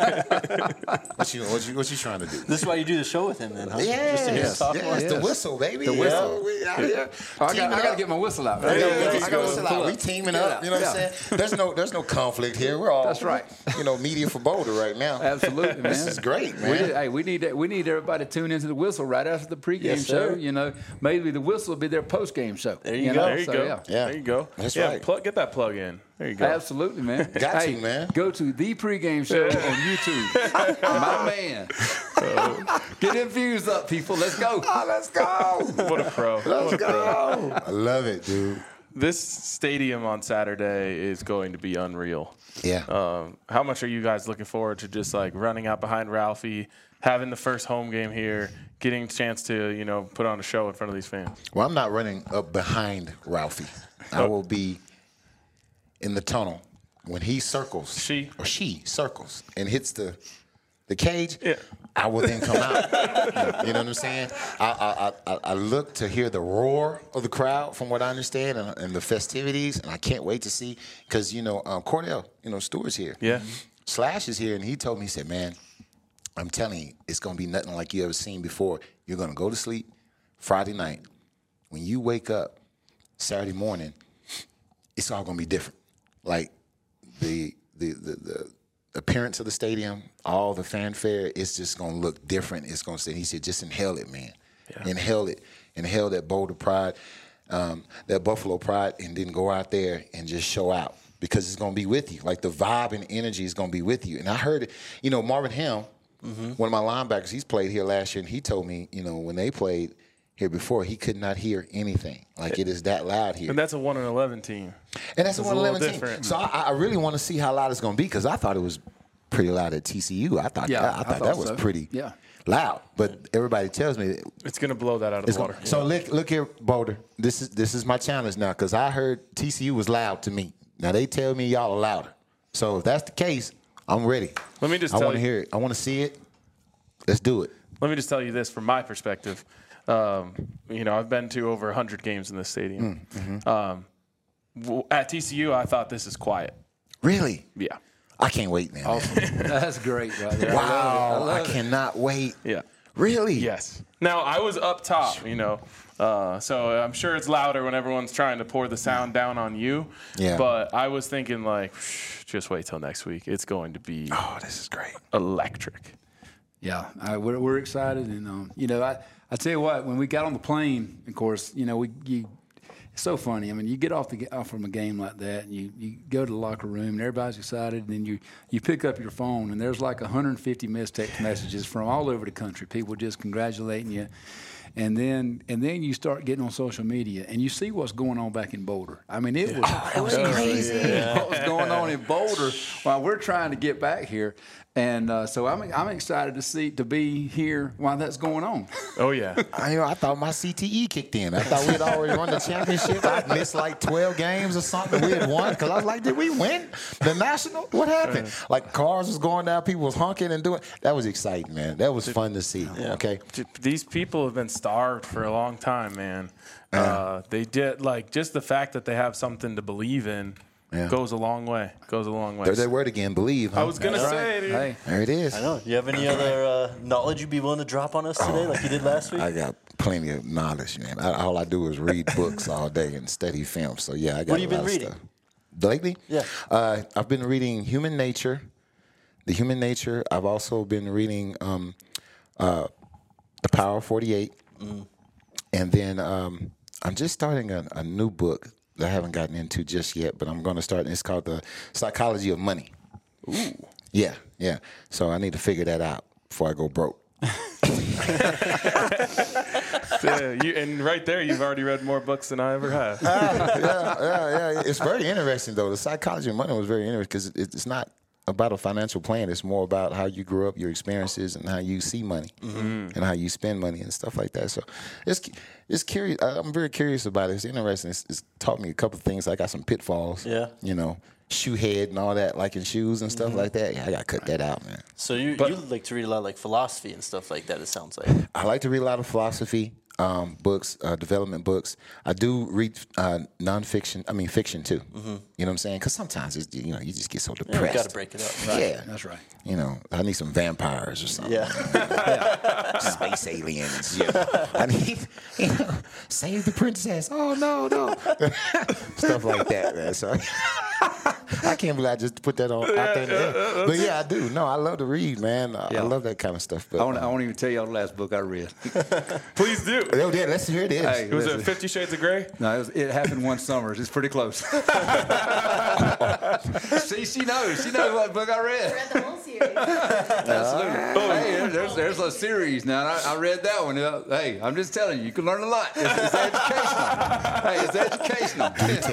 What you trying to do? This is why you do the show with him, then, huh? Yes, the whistle, baby. The whistle. We out here. I got to get my whistle out. We teaming up. You know what I'm saying? There's no conflict here. We're all that's right. Media for Boulder right now. Absolutely, man. This is great, man. We need everybody to tune into the whistle right after the pregame show. Maybe the whistle will be their postgame show. There you go. There you go. There you go. That's right. Get that plug in. There you go. Absolutely, man. Got to, man. Go to the pregame show on YouTube. My man. Get them views up, people. Let's go. Oh, let's go. What a pro. Let's go. I love it, dude. This stadium on Saturday is going to be unreal. Yeah. How much are you guys looking forward to just running out behind Ralphie, having the first home game here, getting a chance to, put on a show in front of these fans? Well, I'm not running up behind Ralphie. I will be in the tunnel when he circles. She circles and hits the cage. Yeah. I will then come out. You know what I'm saying? I look to hear the roar of the crowd, from what I understand, and the festivities, and I can't wait to see because Cordell, Stewart's here. Yeah. Slash is here, and he told me, he said, "Man, I'm telling you, it's gonna be nothing like you ever seen before. You're gonna go to sleep Friday night. When you wake up Saturday morning, it's all gonna be different. Like the appearance of the stadium, all the fanfare, it's just gonna look different. It's gonna say," he said, "just inhale it, man. Yeah. Inhale that Boulder pride, that Buffalo pride, and then go out there and just show out because it's gonna be with you. Like the vibe and energy is gonna be with you." And I heard it. Marvin Helm, one of my linebackers, he's played here last year, and he told me, when they played here before, he could not hear anything. Like it is that loud here. And that's a 1-11 team. And that's a 1-11 team. Different. So I really want to see how loud it's going to be because I thought it was pretty loud at TCU. I thought that was pretty loud. But everybody tells me it's going to blow that out of the water. So look here, Boulder. This is my challenge now because I heard TCU was loud to me. Now they tell me y'all are louder. So if that's the case, I'm ready. Let me just I want to hear it. I want to see it. Let's do it. Let me just tell you this from my perspective. I've been to over 100 games in this stadium. At TCU, I thought this is quiet. Really? Yeah. I can't wait, man. Awesome. That's great, brother. Wow. I cannot wait. Yeah. Really? Yes. Now, I was up top, so I'm sure it's louder when everyone's trying to pour the sound down on you. Yeah. But I was thinking, just wait till next week. It's going to be this is great. Electric. Yeah, we're excited, and I tell you what, when we got on the plane, of course, it's so funny. I mean, you get off from a game like that, and you go to the locker room, and everybody's excited, and then you pick up your phone, and there's like 150 missed text messages from all over the country, people just congratulating you. And then you start getting on social media, and you see what's going on back in Boulder. I mean, it was crazy what was going on in Boulder while we're trying to get back here. And so I'm excited to be here while that's going on. Oh, yeah. I thought my CTE kicked in. I thought we had already won the championship. I missed like 12 games or something. We had won because I was like, did we win the national? What happened? Like cars was going down, people was honking and doing. That was exciting, man. That was fun to see. Yeah. Okay. These people have been starved for a long time, man. They did just the fact that they have something to believe in. Yeah. Goes a long way. There's that word again, believe. Huh? I was going to say, dude. Hey. There it is. I know. Do you have any other knowledge you'd be willing to drop on us today like you did last week? I got plenty of knowledge, man. All I do is read books all day and study film. So, yeah, I got What have you been reading? Stuff. Lately? Yeah. I've been reading Human Nature. The Human Nature. I've also been reading The Power of 48. And then I'm just starting a new book that I haven't gotten into just yet, but I'm going to start. It's called The Psychology of Money. Ooh. Yeah. So I need to figure that out before I go broke. And right there, you've already read more books than I ever have. Yeah. It's very interesting, though. The Psychology of Money was very interesting because it's not about a financial plan. It's more about how you grew up, your experiences, and how you see money and how you spend money and stuff like that. So it's curious. I'm very curious about it. It's interesting. It's taught me a couple of things. I got some pitfalls. Yeah. Shoe head and all that, like in shoes and stuff like that. Yeah, I got to cut that out, man. So you like to read a lot of like philosophy and stuff like that, it sounds like. I like to read a lot of philosophy books, development books. I do read fiction too. You know what I'm saying? Because sometimes it's, you just get so depressed. Yeah, you got to break it up. Right. Yeah, that's right. I need some vampires or something. Yeah. Space aliens. I need, save the princess. Oh no. Stuff like that, man. So I can't believe I just put that on out there. But yeah, I do. No, I love to read, man. I love that kind of stuff. But I won't even tell y'all the last book I read. Please do. Oh, yeah, let's hear it. Hey, Was it 50 Shades of Grey? No, it happened one summer. It's pretty close. See, she knows. She knows what book I read. Read the whole series. Absolutely. Hey, there's a series now. I read that one. Hey, I'm just telling you, you can learn a lot. It's educational. Hey, it's educational.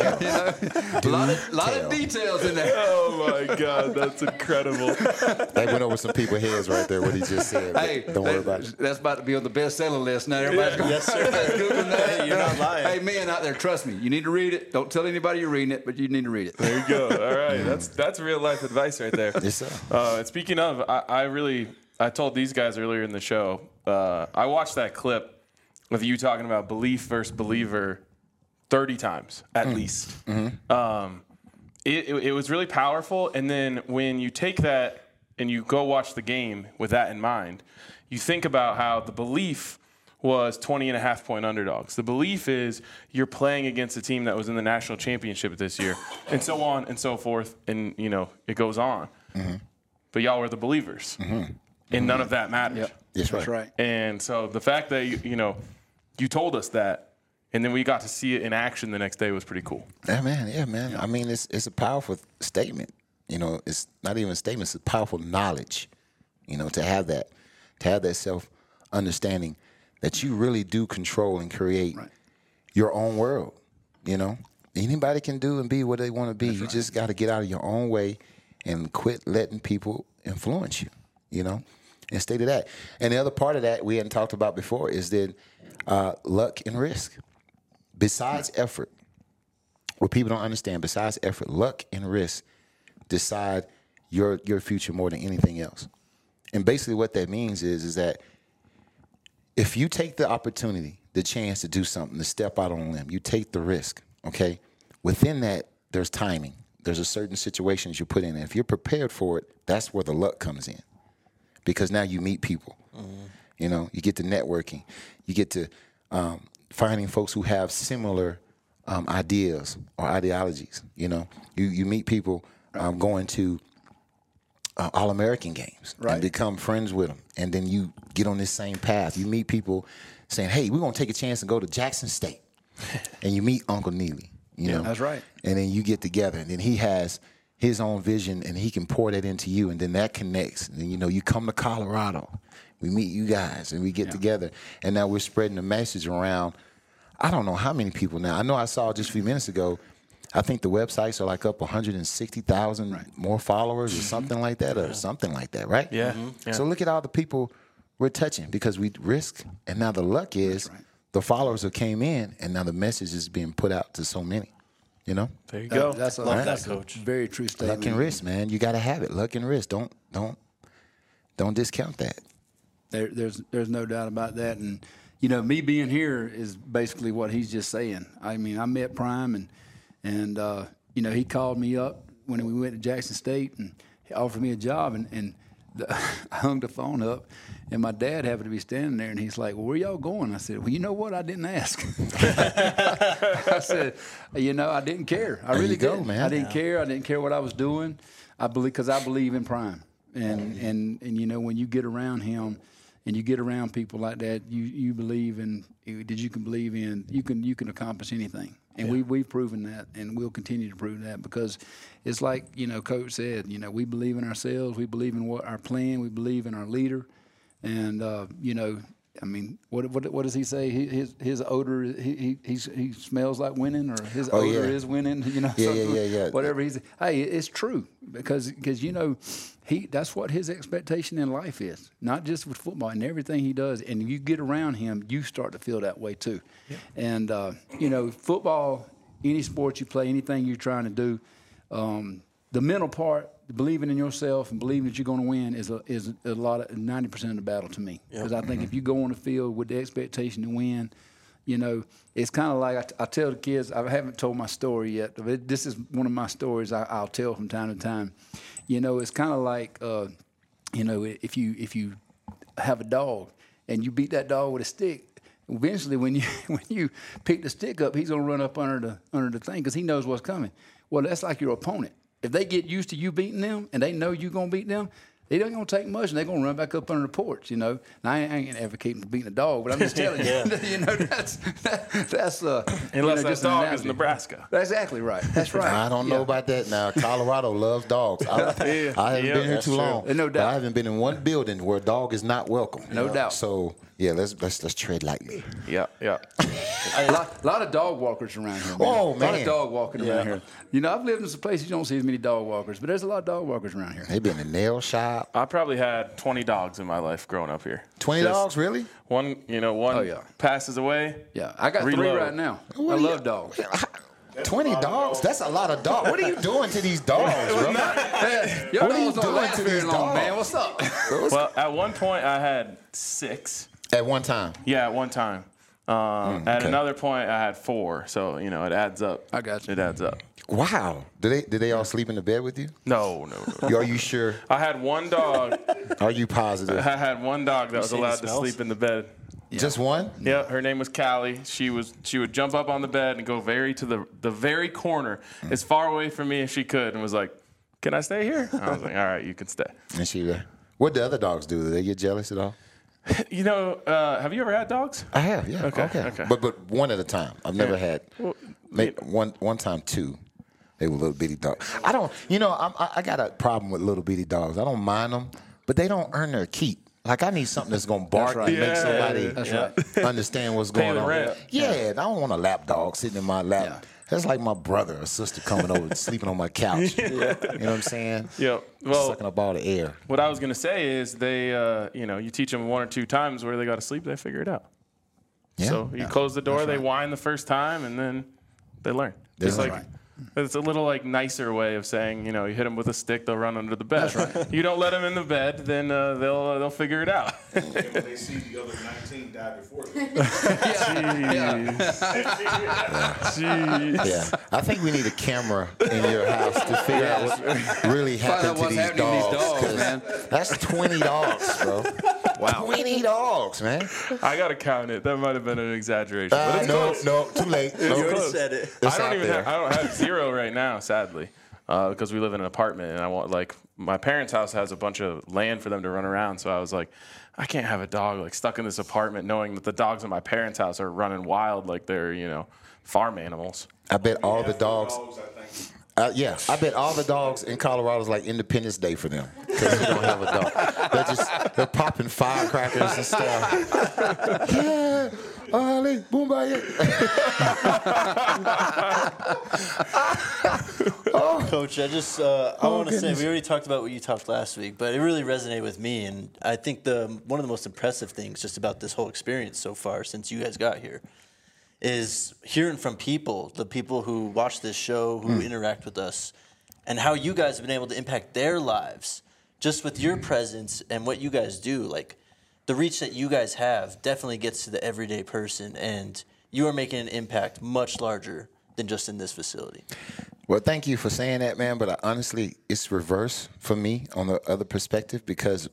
A lot of details in there. Oh my God, that's incredible. That went over some people's heads right there. What he just said. Hey, don't worry about it. That's about to be on the bestseller list now. Everybody's going. Yes, sir. Googling that. Hey, you're not lying. Hey, men out there, trust me. You need to read it. Don't tell anybody you're reading it, but you need to read it. There you go. All right, that's real life advice right there. Yes, sir. And speaking of, I told these guys earlier in the show. I watched that clip of you talking about belief versus believer 30 times at least. Mm-hmm. It was really powerful. And then when you take that and you go watch the game with that in mind, you think about how the belief was 20.5-point underdogs. The belief is you're playing against a team that was in the national championship this year, and so on and so forth, and it goes on. Mm-hmm. But y'all were the believers, and none of that mattered. Yep. That's right. And so the fact that you told us that, and then we got to see it in action the next day was pretty cool. Yeah, man. I mean, it's a powerful statement. It's not even a statement; it's a powerful knowledge. To have that self understanding that you really do control and create your own world. Anybody can do and be what they want to be. You just got to get out of your own way and quit letting people influence you. And stay to that. And the other part of that we hadn't talked about before is that luck and risk. Besides effort, what people don't understand, besides effort, luck and risk decide your future more than anything else. And basically what that means is that if you take the opportunity, the chance to do something, to step out on a limb, you take the risk, okay? Within that, there's timing. There's a certain situations you put in. And if you're prepared for it, that's where the luck comes in. Because now you meet people. Mm-hmm. You get to networking. You get to finding folks who have similar ideas or ideologies. You meet people going to All-American games and become friends with them. And then you get on this same path. You meet people saying, hey, we're going to take a chance and go to Jackson State. And you meet Uncle Neely. That's right. And then you get together. And then he has his own vision, and he can pour that into you. And then that connects. And then, you come to Colorado. We meet you guys, and we get together. And now we're spreading the message around. I don't know how many people now. I know I saw just a few minutes ago, I think the websites are like up 160,000 more followers or something like that, right? Yeah. Mm-hmm. Yeah. So look at all the people we're touching because we risk, and now the luck is the followers that came in, and now the message is being put out to so many. There you go. That's that, Coach. A very true statement. Luck and risk, man. You got to have it. Luck and risk. Don't discount that. There's no doubt about that. And me being here is basically what he's just saying. I mean, I met Prime and he called me up when we went to Jackson State and he offered me a job and I hung the phone up and my dad happened to be standing there and he's like, well, where y'all going? I said, well, you know what? I didn't ask. I said, I didn't care. I really didn't. Man. I didn't care. I didn't care what I was doing. I believe in Prime. And when you get around him and you get around people like that, you believe in that you can believe in you can accomplish anything. And we've proven that, and we'll continue to prove that because it's like, Coach said, we believe in ourselves, we believe in what our plan, we believe in our leader. And, I mean, what does he say? His odor, he smells like winning, or his odor is winning. Yeah. Whatever he's. Hey, it's true because that's what his expectation in life is. Not just with football and everything he does. And you get around him, you start to feel that way too. Yeah. And football, any sport you play, anything you're trying to do, the mental part, believing in yourself and believing that you're going to win is a lot of 90% of the battle to me. Because I think if you go on the field with the expectation to win, it's kind of like I tell the kids. I haven't told my story yet. But this is one of my stories I'll tell from time to time. It's kind of like if you have a dog and you beat that dog with a stick. Eventually, when you pick the stick up, he's gonna run up under the thing because he knows what's coming. Well, that's like your opponent. If they get used to you beating them and they know you're going to beat them, It ain't gonna take much, and they're gonna run back up under the porch. Now, I ain't gonna advocate for beating a dog, but I'm just telling you, that's Unless that just an dog is analogy. Nebraska. That's exactly right. That's right. I don't know about that now. Colorado loves dogs. I haven't been here that's too true. long. No but doubt. I haven't been in one building where a dog is not welcome. No doubt. So yeah, let's tread lightly. Yeah. A lot of dog walkers around here. Man. Oh, A lot man. of dog walking around here. I've lived in some places you don't see as many dog walkers, but there's a lot of dog walkers around here. They been in the nail shop. I probably had 20 dogs in my life growing up here. 20 Just dogs, really? One passes away. Yeah, I got Reload. 3 right now. I love dogs. 20 dogs? That's a lot of dogs. What are you doing to these dogs, bro? Your What are you dogs don't doing last to very these long, dogs? man. What's up? Well, at one point I had 6. At one time. Yeah, at one time. At okay. another point I had 4. So it adds up. I got you. It adds up. Wow. Did they all sleep in the bed with you? No. Are you sure? I had one dog. Are you positive? I had one dog that was seen the allowed to smells? sleep in the bed. Just one? Yeah, her name was Callie. She would jump up on the bed and go to the very corner, as far away from me as she could, and was like, "Can I stay here?" And I was like, "All right, you can stay." And she what do other dogs do? Do they get jealous at all? Have you ever had dogs? I have, yeah. Okay. But one at a time. I've never had. Maybe one time 2. They were little bitty dogs. I don't. I got a problem with little bitty dogs. I don't mind them, but they don't earn their keep. Like I need something that's gonna bark right. and make That's somebody understand what's Pay going the on. rent. Yeah, I don't want a lap dog sitting in my lap. Yeah. That's like my brother or sister coming over, sleeping on my couch. You know what I'm saying? Yeah. Well, Sucking up all the air. what I was gonna say is they, you teach them 1 or 2 times where they got to sleep, they figure it out. Yeah. So you close the door, they whine the first time, and then they learn. That's It's right. It's a little nicer way of saying, you hit them with a stick, they'll run under the bed. That's right. You don't let them in the bed, then they'll figure it out. And when they see the other 19 die before them. Jeez. Yeah, I think we need a camera in your house to figure out what really happened to what's these happening to these dogs. dogs, man. That's 20 dogs, bro. Wow, 20 dogs, man. I gotta count it. That might have been an exaggeration. But it's close. No, too late. No, You already close. said it. It's I don't out even there. have, I don't have 0 right now, sadly, because we live in an apartment, and I want my parents' house has a bunch of land for them to run around. So I was like, I can't have a dog stuck in this apartment, knowing that the dogs in my parents' house are running wild like they're farm animals. I bet all the dogs. I think. Yeah, I bet all the dogs in Colorado is like Independence Day for them because they don't have a dog. They're popping firecrackers and stuff. Yeah, Ali, Boomba. Coach, I just I want to say goodness. we already talked about what you talked last week, but it really resonated with me, and I think one of the most impressive things just about this whole experience so far since you guys got here is hearing from the people who watch this show, who interact with us, and how you guys have been able to impact their lives just with your presence and what you guys do. Like the reach that you guys have definitely gets to the everyday person, and you are making an impact much larger than just in this facility. Well, thank you for saying that, man. But honestly, it's reverse for me on the other perspective because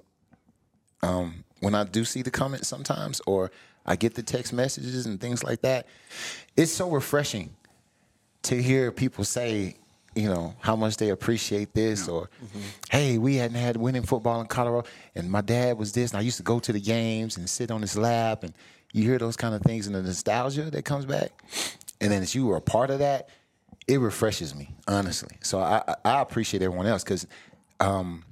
when I do see the comments sometimes or I get the text messages and things like that, it's so refreshing to hear people say, how much they appreciate this or, hey, we hadn't had winning football in Colorado and my dad was this and I used to go to the games and sit on his lap and you hear those kind of things and the nostalgia that comes back. And then as you were a part of that, it refreshes me, honestly. So I appreciate everyone else because, on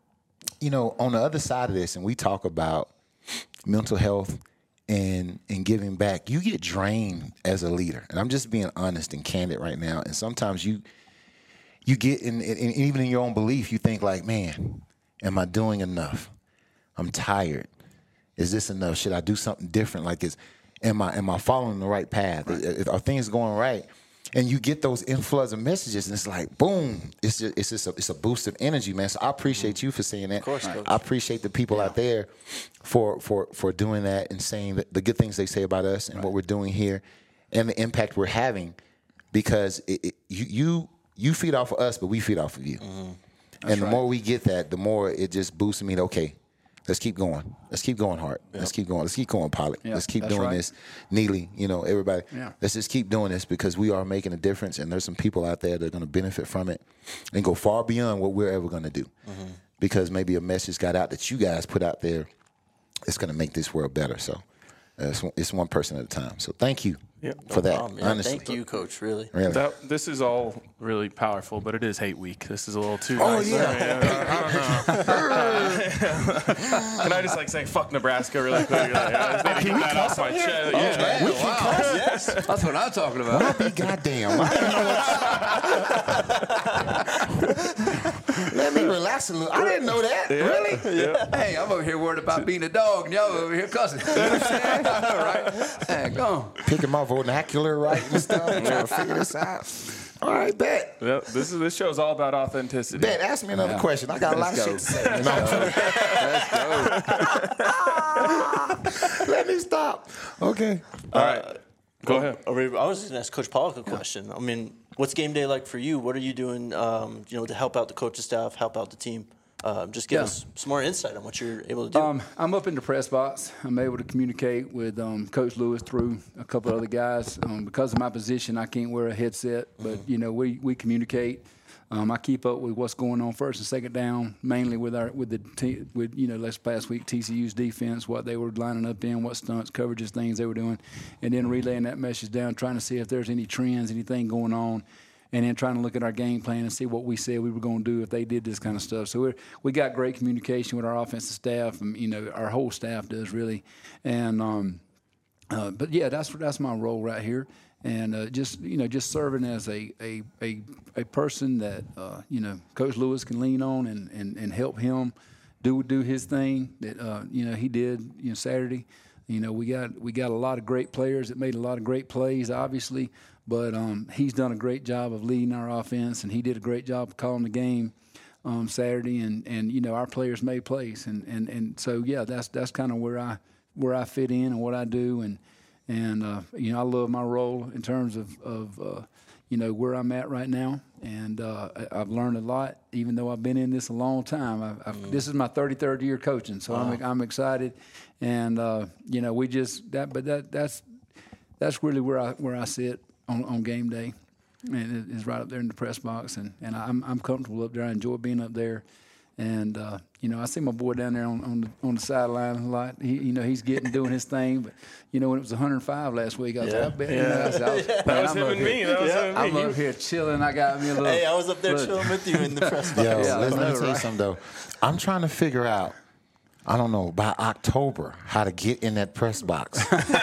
the other side of this, and we talk about mental health and giving back, you get drained as a leader. And I'm just being honest and candid right now. And sometimes you get in even in your own belief, you think like, man, am I doing enough? I'm tired. Is this enough? Should I do something different? Like, am I following the right path? Right. Are things going right? And you get those influx of messages, and it's like, boom! It's a boost of energy, man. So I appreciate you for saying that. Of course, Coach. I appreciate the people out there for doing that and saying the good things they say about us and what we're doing here, and the impact we're having. Because you feed off of us, but we feed off of you. And the more we get that, the more it just boosts me to, okay, let's keep going. Let's keep going, Hart. Yep. Let's keep going. Let's keep going, Pollock. Yeah, let's keep that's doing right. this. Neely, everybody. Yeah. Let's just keep doing this because we are making a difference, and there's some people out there that are going to benefit from it and go far beyond what we're ever going to do. because maybe a message got out that you guys put out there. It's going to make this world better. So it's one person at a time. So thank you for that. Honestly. Thank you, Coach. Really. This is all really powerful, but it is hate week. This is a little too. Oh nice. yeah. Can I just say fuck Nebraska really quick? I just need to get that off my chest. We can cuss. Yes, that's what I'm talking about. I'll be goddamn. Let me relax a little. I didn't know that. Really? Yeah. Hey, I'm over here worried about being a dog, and y'all over here cussing. You know what I'm saying? All right. Hey, go on. Picking my vernacular right and stuff, trying to figure this out. All right, bet. Yep. This show's all about authenticity. Bet. Ask me another question. I got a lot of shit to say. Let me stop. Okay. All right. Go ahead. I was just going to ask Coach Pollock a question. I mean, what's game day like for you? What are you doing, to help out the coaching staff, help out the team? Just give us some more insight on what you're able to do. I'm up in the press box. I'm able to communicate with Coach Lewis through a couple of other guys. Because of my position, I can't wear a headset, but we communicate. I keep up with what's going on first and second down, mainly with last past week TCU's defense, what they were lining up in, what stunts, coverages, things they were doing, and then relaying that message down, trying to see if there's any trends, anything going on. And then trying to look at our game plan and see what we said we were going to do if they did this kind of stuff. So we got great communication with our offensive staff, and our whole staff does really. And but yeah, that's my role right here, and just serving as a person that Coach Lewis can lean on and help him do his thing that he did Saturday. We got a lot of great players that made a lot of great plays, obviously. But he's done a great job of leading our offense, and he did a great job of calling the game Saturday. And our players made plays, and so that's kind of where I fit in and what I do, and I love my role in terms of where I'm at right now, and I've learned a lot, even though I've been in this a long time. This is my 33rd year coaching, so I'm excited, and that's really where I sit on game day, and it's right up there in the press box, and I'm comfortable up there. I enjoy being up there, and I see my boy down there on the sideline a lot. He's doing his thing, but when it was 105 last week, I was like, I bet that was him and me. I'm up here chilling. I got me a little. Hey, I was up there chilling with you in the press box. Let me tell you something though. I'm trying to figure out, I don't know, by October, how to get in that press box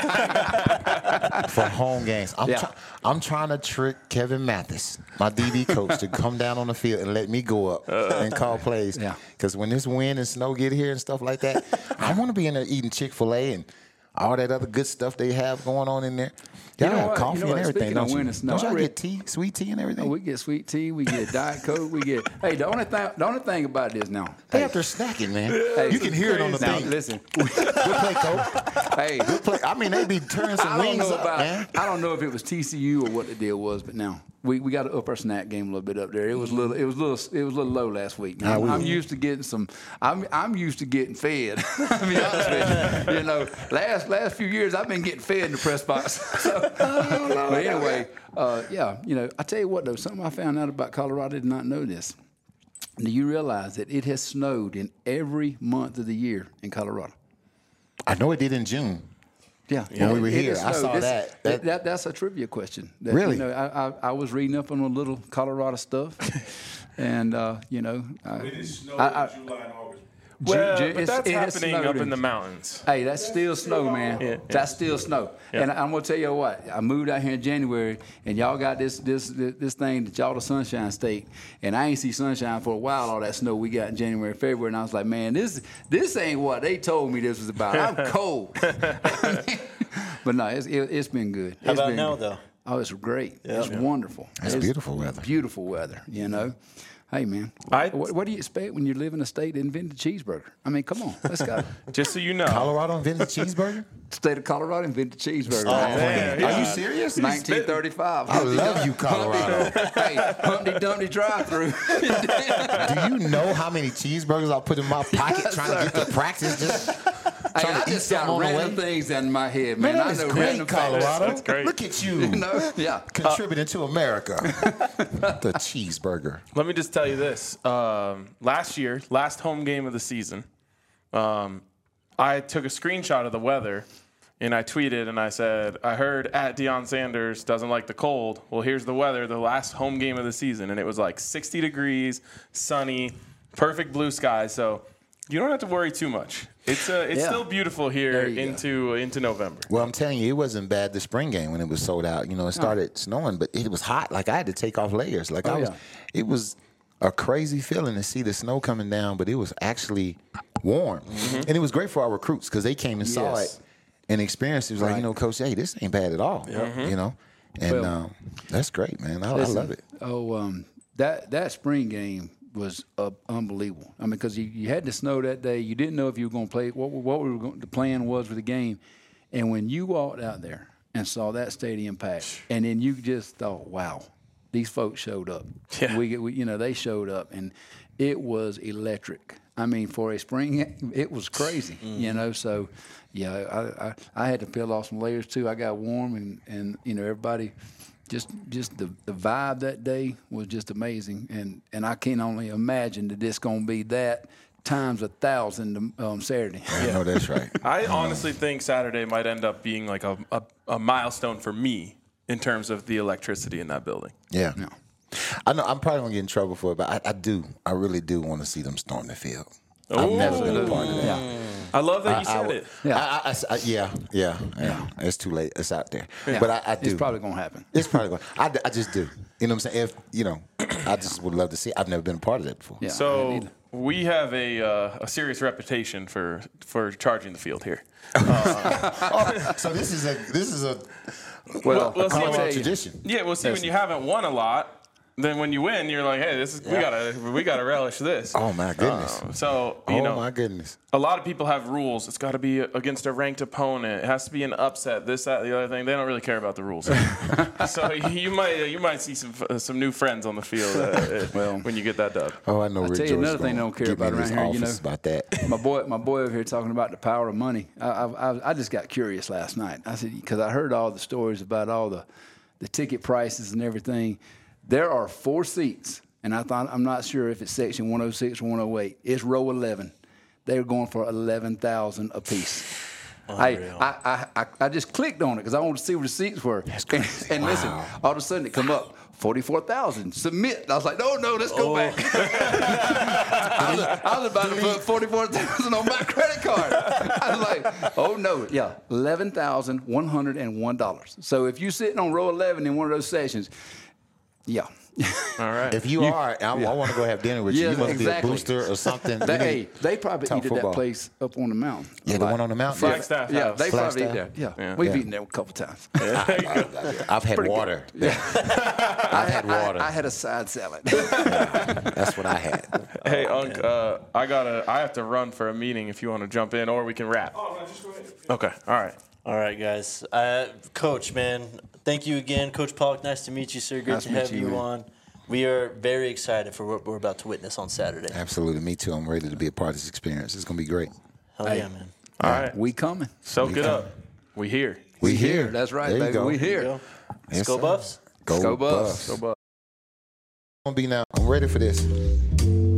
for home games. I'm trying to trick Kevin Mathis, my DB coach, to come down on the field and let me go up and call plays. Because when this wind and snow get here and stuff like that, I want to be in there eating Chick-fil-A and all that other good stuff they have going on in there. Y'all have coffee and everything, don't you? Don't y'all get tea, sweet tea and everything? Oh, we get sweet tea. We get Diet Coke. Hey, the only thing about this now. They up there snacking, man. Hey, you can hear it on the thing. Listen. We'll play Coke. Hey. We'll play. I mean, they be turning some wings up, man. I don't know if it was TCU or what the deal was, but now we got to up our snack game a little bit up there. It was a little low last week. Now, I'm used to getting I'm used to getting fed. To be honest with you, last few years I've been getting fed in the press box. But anyway, I tell you what though, something I found out about Colorado, I did not know this. Do you realize that it has snowed in every month of the year in Colorado? I know it did in June. Yeah, when we were here, I saw that. That's a trivia question. Really? I was reading up on a little Colorado stuff, and It is snowing in July and August. But that's happening up in the mountains. Hey, that's still snow, man. Yeah. That's still snow. Yeah. And I'm gonna tell you what. I moved out here in January, and y'all got this thing that y'all the Sunshine State, and I ain't see sunshine for a while. All that snow we got in January, February, and I was like, man, this ain't what they told me this was about. I'm cold. But no, it's been good. How about now, though? Oh, it's great. Yeah. It's wonderful. It's beautiful weather. Beautiful weather. Hey, man, what do you expect when you live in a state that invented cheeseburger? I mean, come on, let's go. Just so you know. Colorado invented cheeseburger? State of Colorado invented cheeseburger. Oh, man. Are you serious? 1935. I love you, Colorado. Hey, Humpty Dumpty drive-through. Do you know how many cheeseburgers I put in my pocket trying to get to practice? Hey, Trying I to eat just got something on the random way. things in my head, man. Man, I that know is great, random Colorado. things. great. Look at you. You know? Yeah. Contributing to America. The cheeseburger. Let me just tell you this. Last home game of the season, I took a screenshot of the weather, and I tweeted, and I said, I heard at Deion Sanders doesn't like the cold. Well, here's the weather, the last home game of the season, and it was like 60 degrees, sunny, perfect blue skies. So you don't have to worry too much. It's still beautiful here There you into November. Well, I'm telling you, it wasn't bad the spring game when it was sold out. You know, it started snowing, but it was hot. Like I had to take off layers. Like it was a crazy feeling to see the snow coming down, but it was actually warm. And it was great for our recruits because they came and saw it and experienced it. It was like, you know, Coach, hey, this ain't bad at all. You know? And that's great, man. I love it. That spring game was unbelievable. I mean, because you had the snow that day. You didn't know if you were going to play. The plan was for the game. And when you walked out there and saw that stadium packed, and then you just thought, wow, these folks showed up. Yeah. They showed up, and it was electric. I mean, for a spring, it was crazy, you know. So, yeah, I had to peel off some layers too. I got warm, and you know, everybody, just the vibe that day was just amazing. And I can only imagine that it's going to be that times 1,000 Saturday. I know that's right. I honestly think Saturday might end up being like a milestone for me in terms of the electricity in that building. Yeah. I know I'm probably going to get in trouble for it, but I really do want to see them storm the field. I've never been a part of that. Yeah. I love that you said it. Yeah. Yeah. It's too late. It's out there. But I do. It's probably going to happen. It's probably going to. I just do. You know what I'm saying? If, you know, I just would love to see. I've never been a part of that before. Yeah. So we have a serious reputation for charging the field here. So this is a Well, see, Colorado tradition. Yeah, well, see, when you haven't won a lot, then when you win, you're like, hey, we gotta relish this. Oh my goodness. So you know, my goodness. a lot of people have rules. It's got to be against a ranked opponent. It has to be an upset. This, that, the other thing. They don't really care about the rules. So you might see some new friends on the field when you get that dub. Oh, I know. I'll Rick tell you George another thing they don't care get me about in his around here, you office know. about that. My boy over here talking about the power of money. I just got curious last night. I said, because I heard all the stories about all the ticket prices and everything. There are 4 seats, and I'm not sure if it's section 106 or 108. It's row 11. They're going for $11,000 a piece. I just clicked on it because I wanted to see where the seats were. That's crazy. And listen, all of a sudden it come up. 44,000. Submit. I was like, no, let's go back. I was about to put 44,000 on my credit card. I was like, oh no, yeah, $11,101. So if you're sitting on row 11 in one of those sessions, yeah. All right. If you are, I want to go have dinner with you. Yeah, You must exactly. be a booster or something. They probably Talk eat at football. that place up on the mountain. Yeah, the one on the mountain. Flagstaff Yeah, House. they probably eat Flagstaff? there. Yeah. Yeah. We've Yeah. eaten there a couple times. I've had water. I've had water. I had a side salad. That's what I had. Hey, Unc, I have to run for a meeting if you want to jump in, or we can wrap. Oh, no, just go ahead. Okay, all right, guys. Coach, man, thank you again. Coach Pollock, nice to meet you, sir. Great Nice to to meet have you, you man. on. We are very excited for what we're about to witness on Saturday. Absolutely. Me too. I'm ready to be a part of this experience. It's going to be great. Hell yeah, man. All right. We coming. Soak it up. We here. We here. That's right, There you baby. go. We There you here. go. Yes, Go sir. Buffs. Go Go Buffs. Buffs. Go Buffs. I'm ready for this.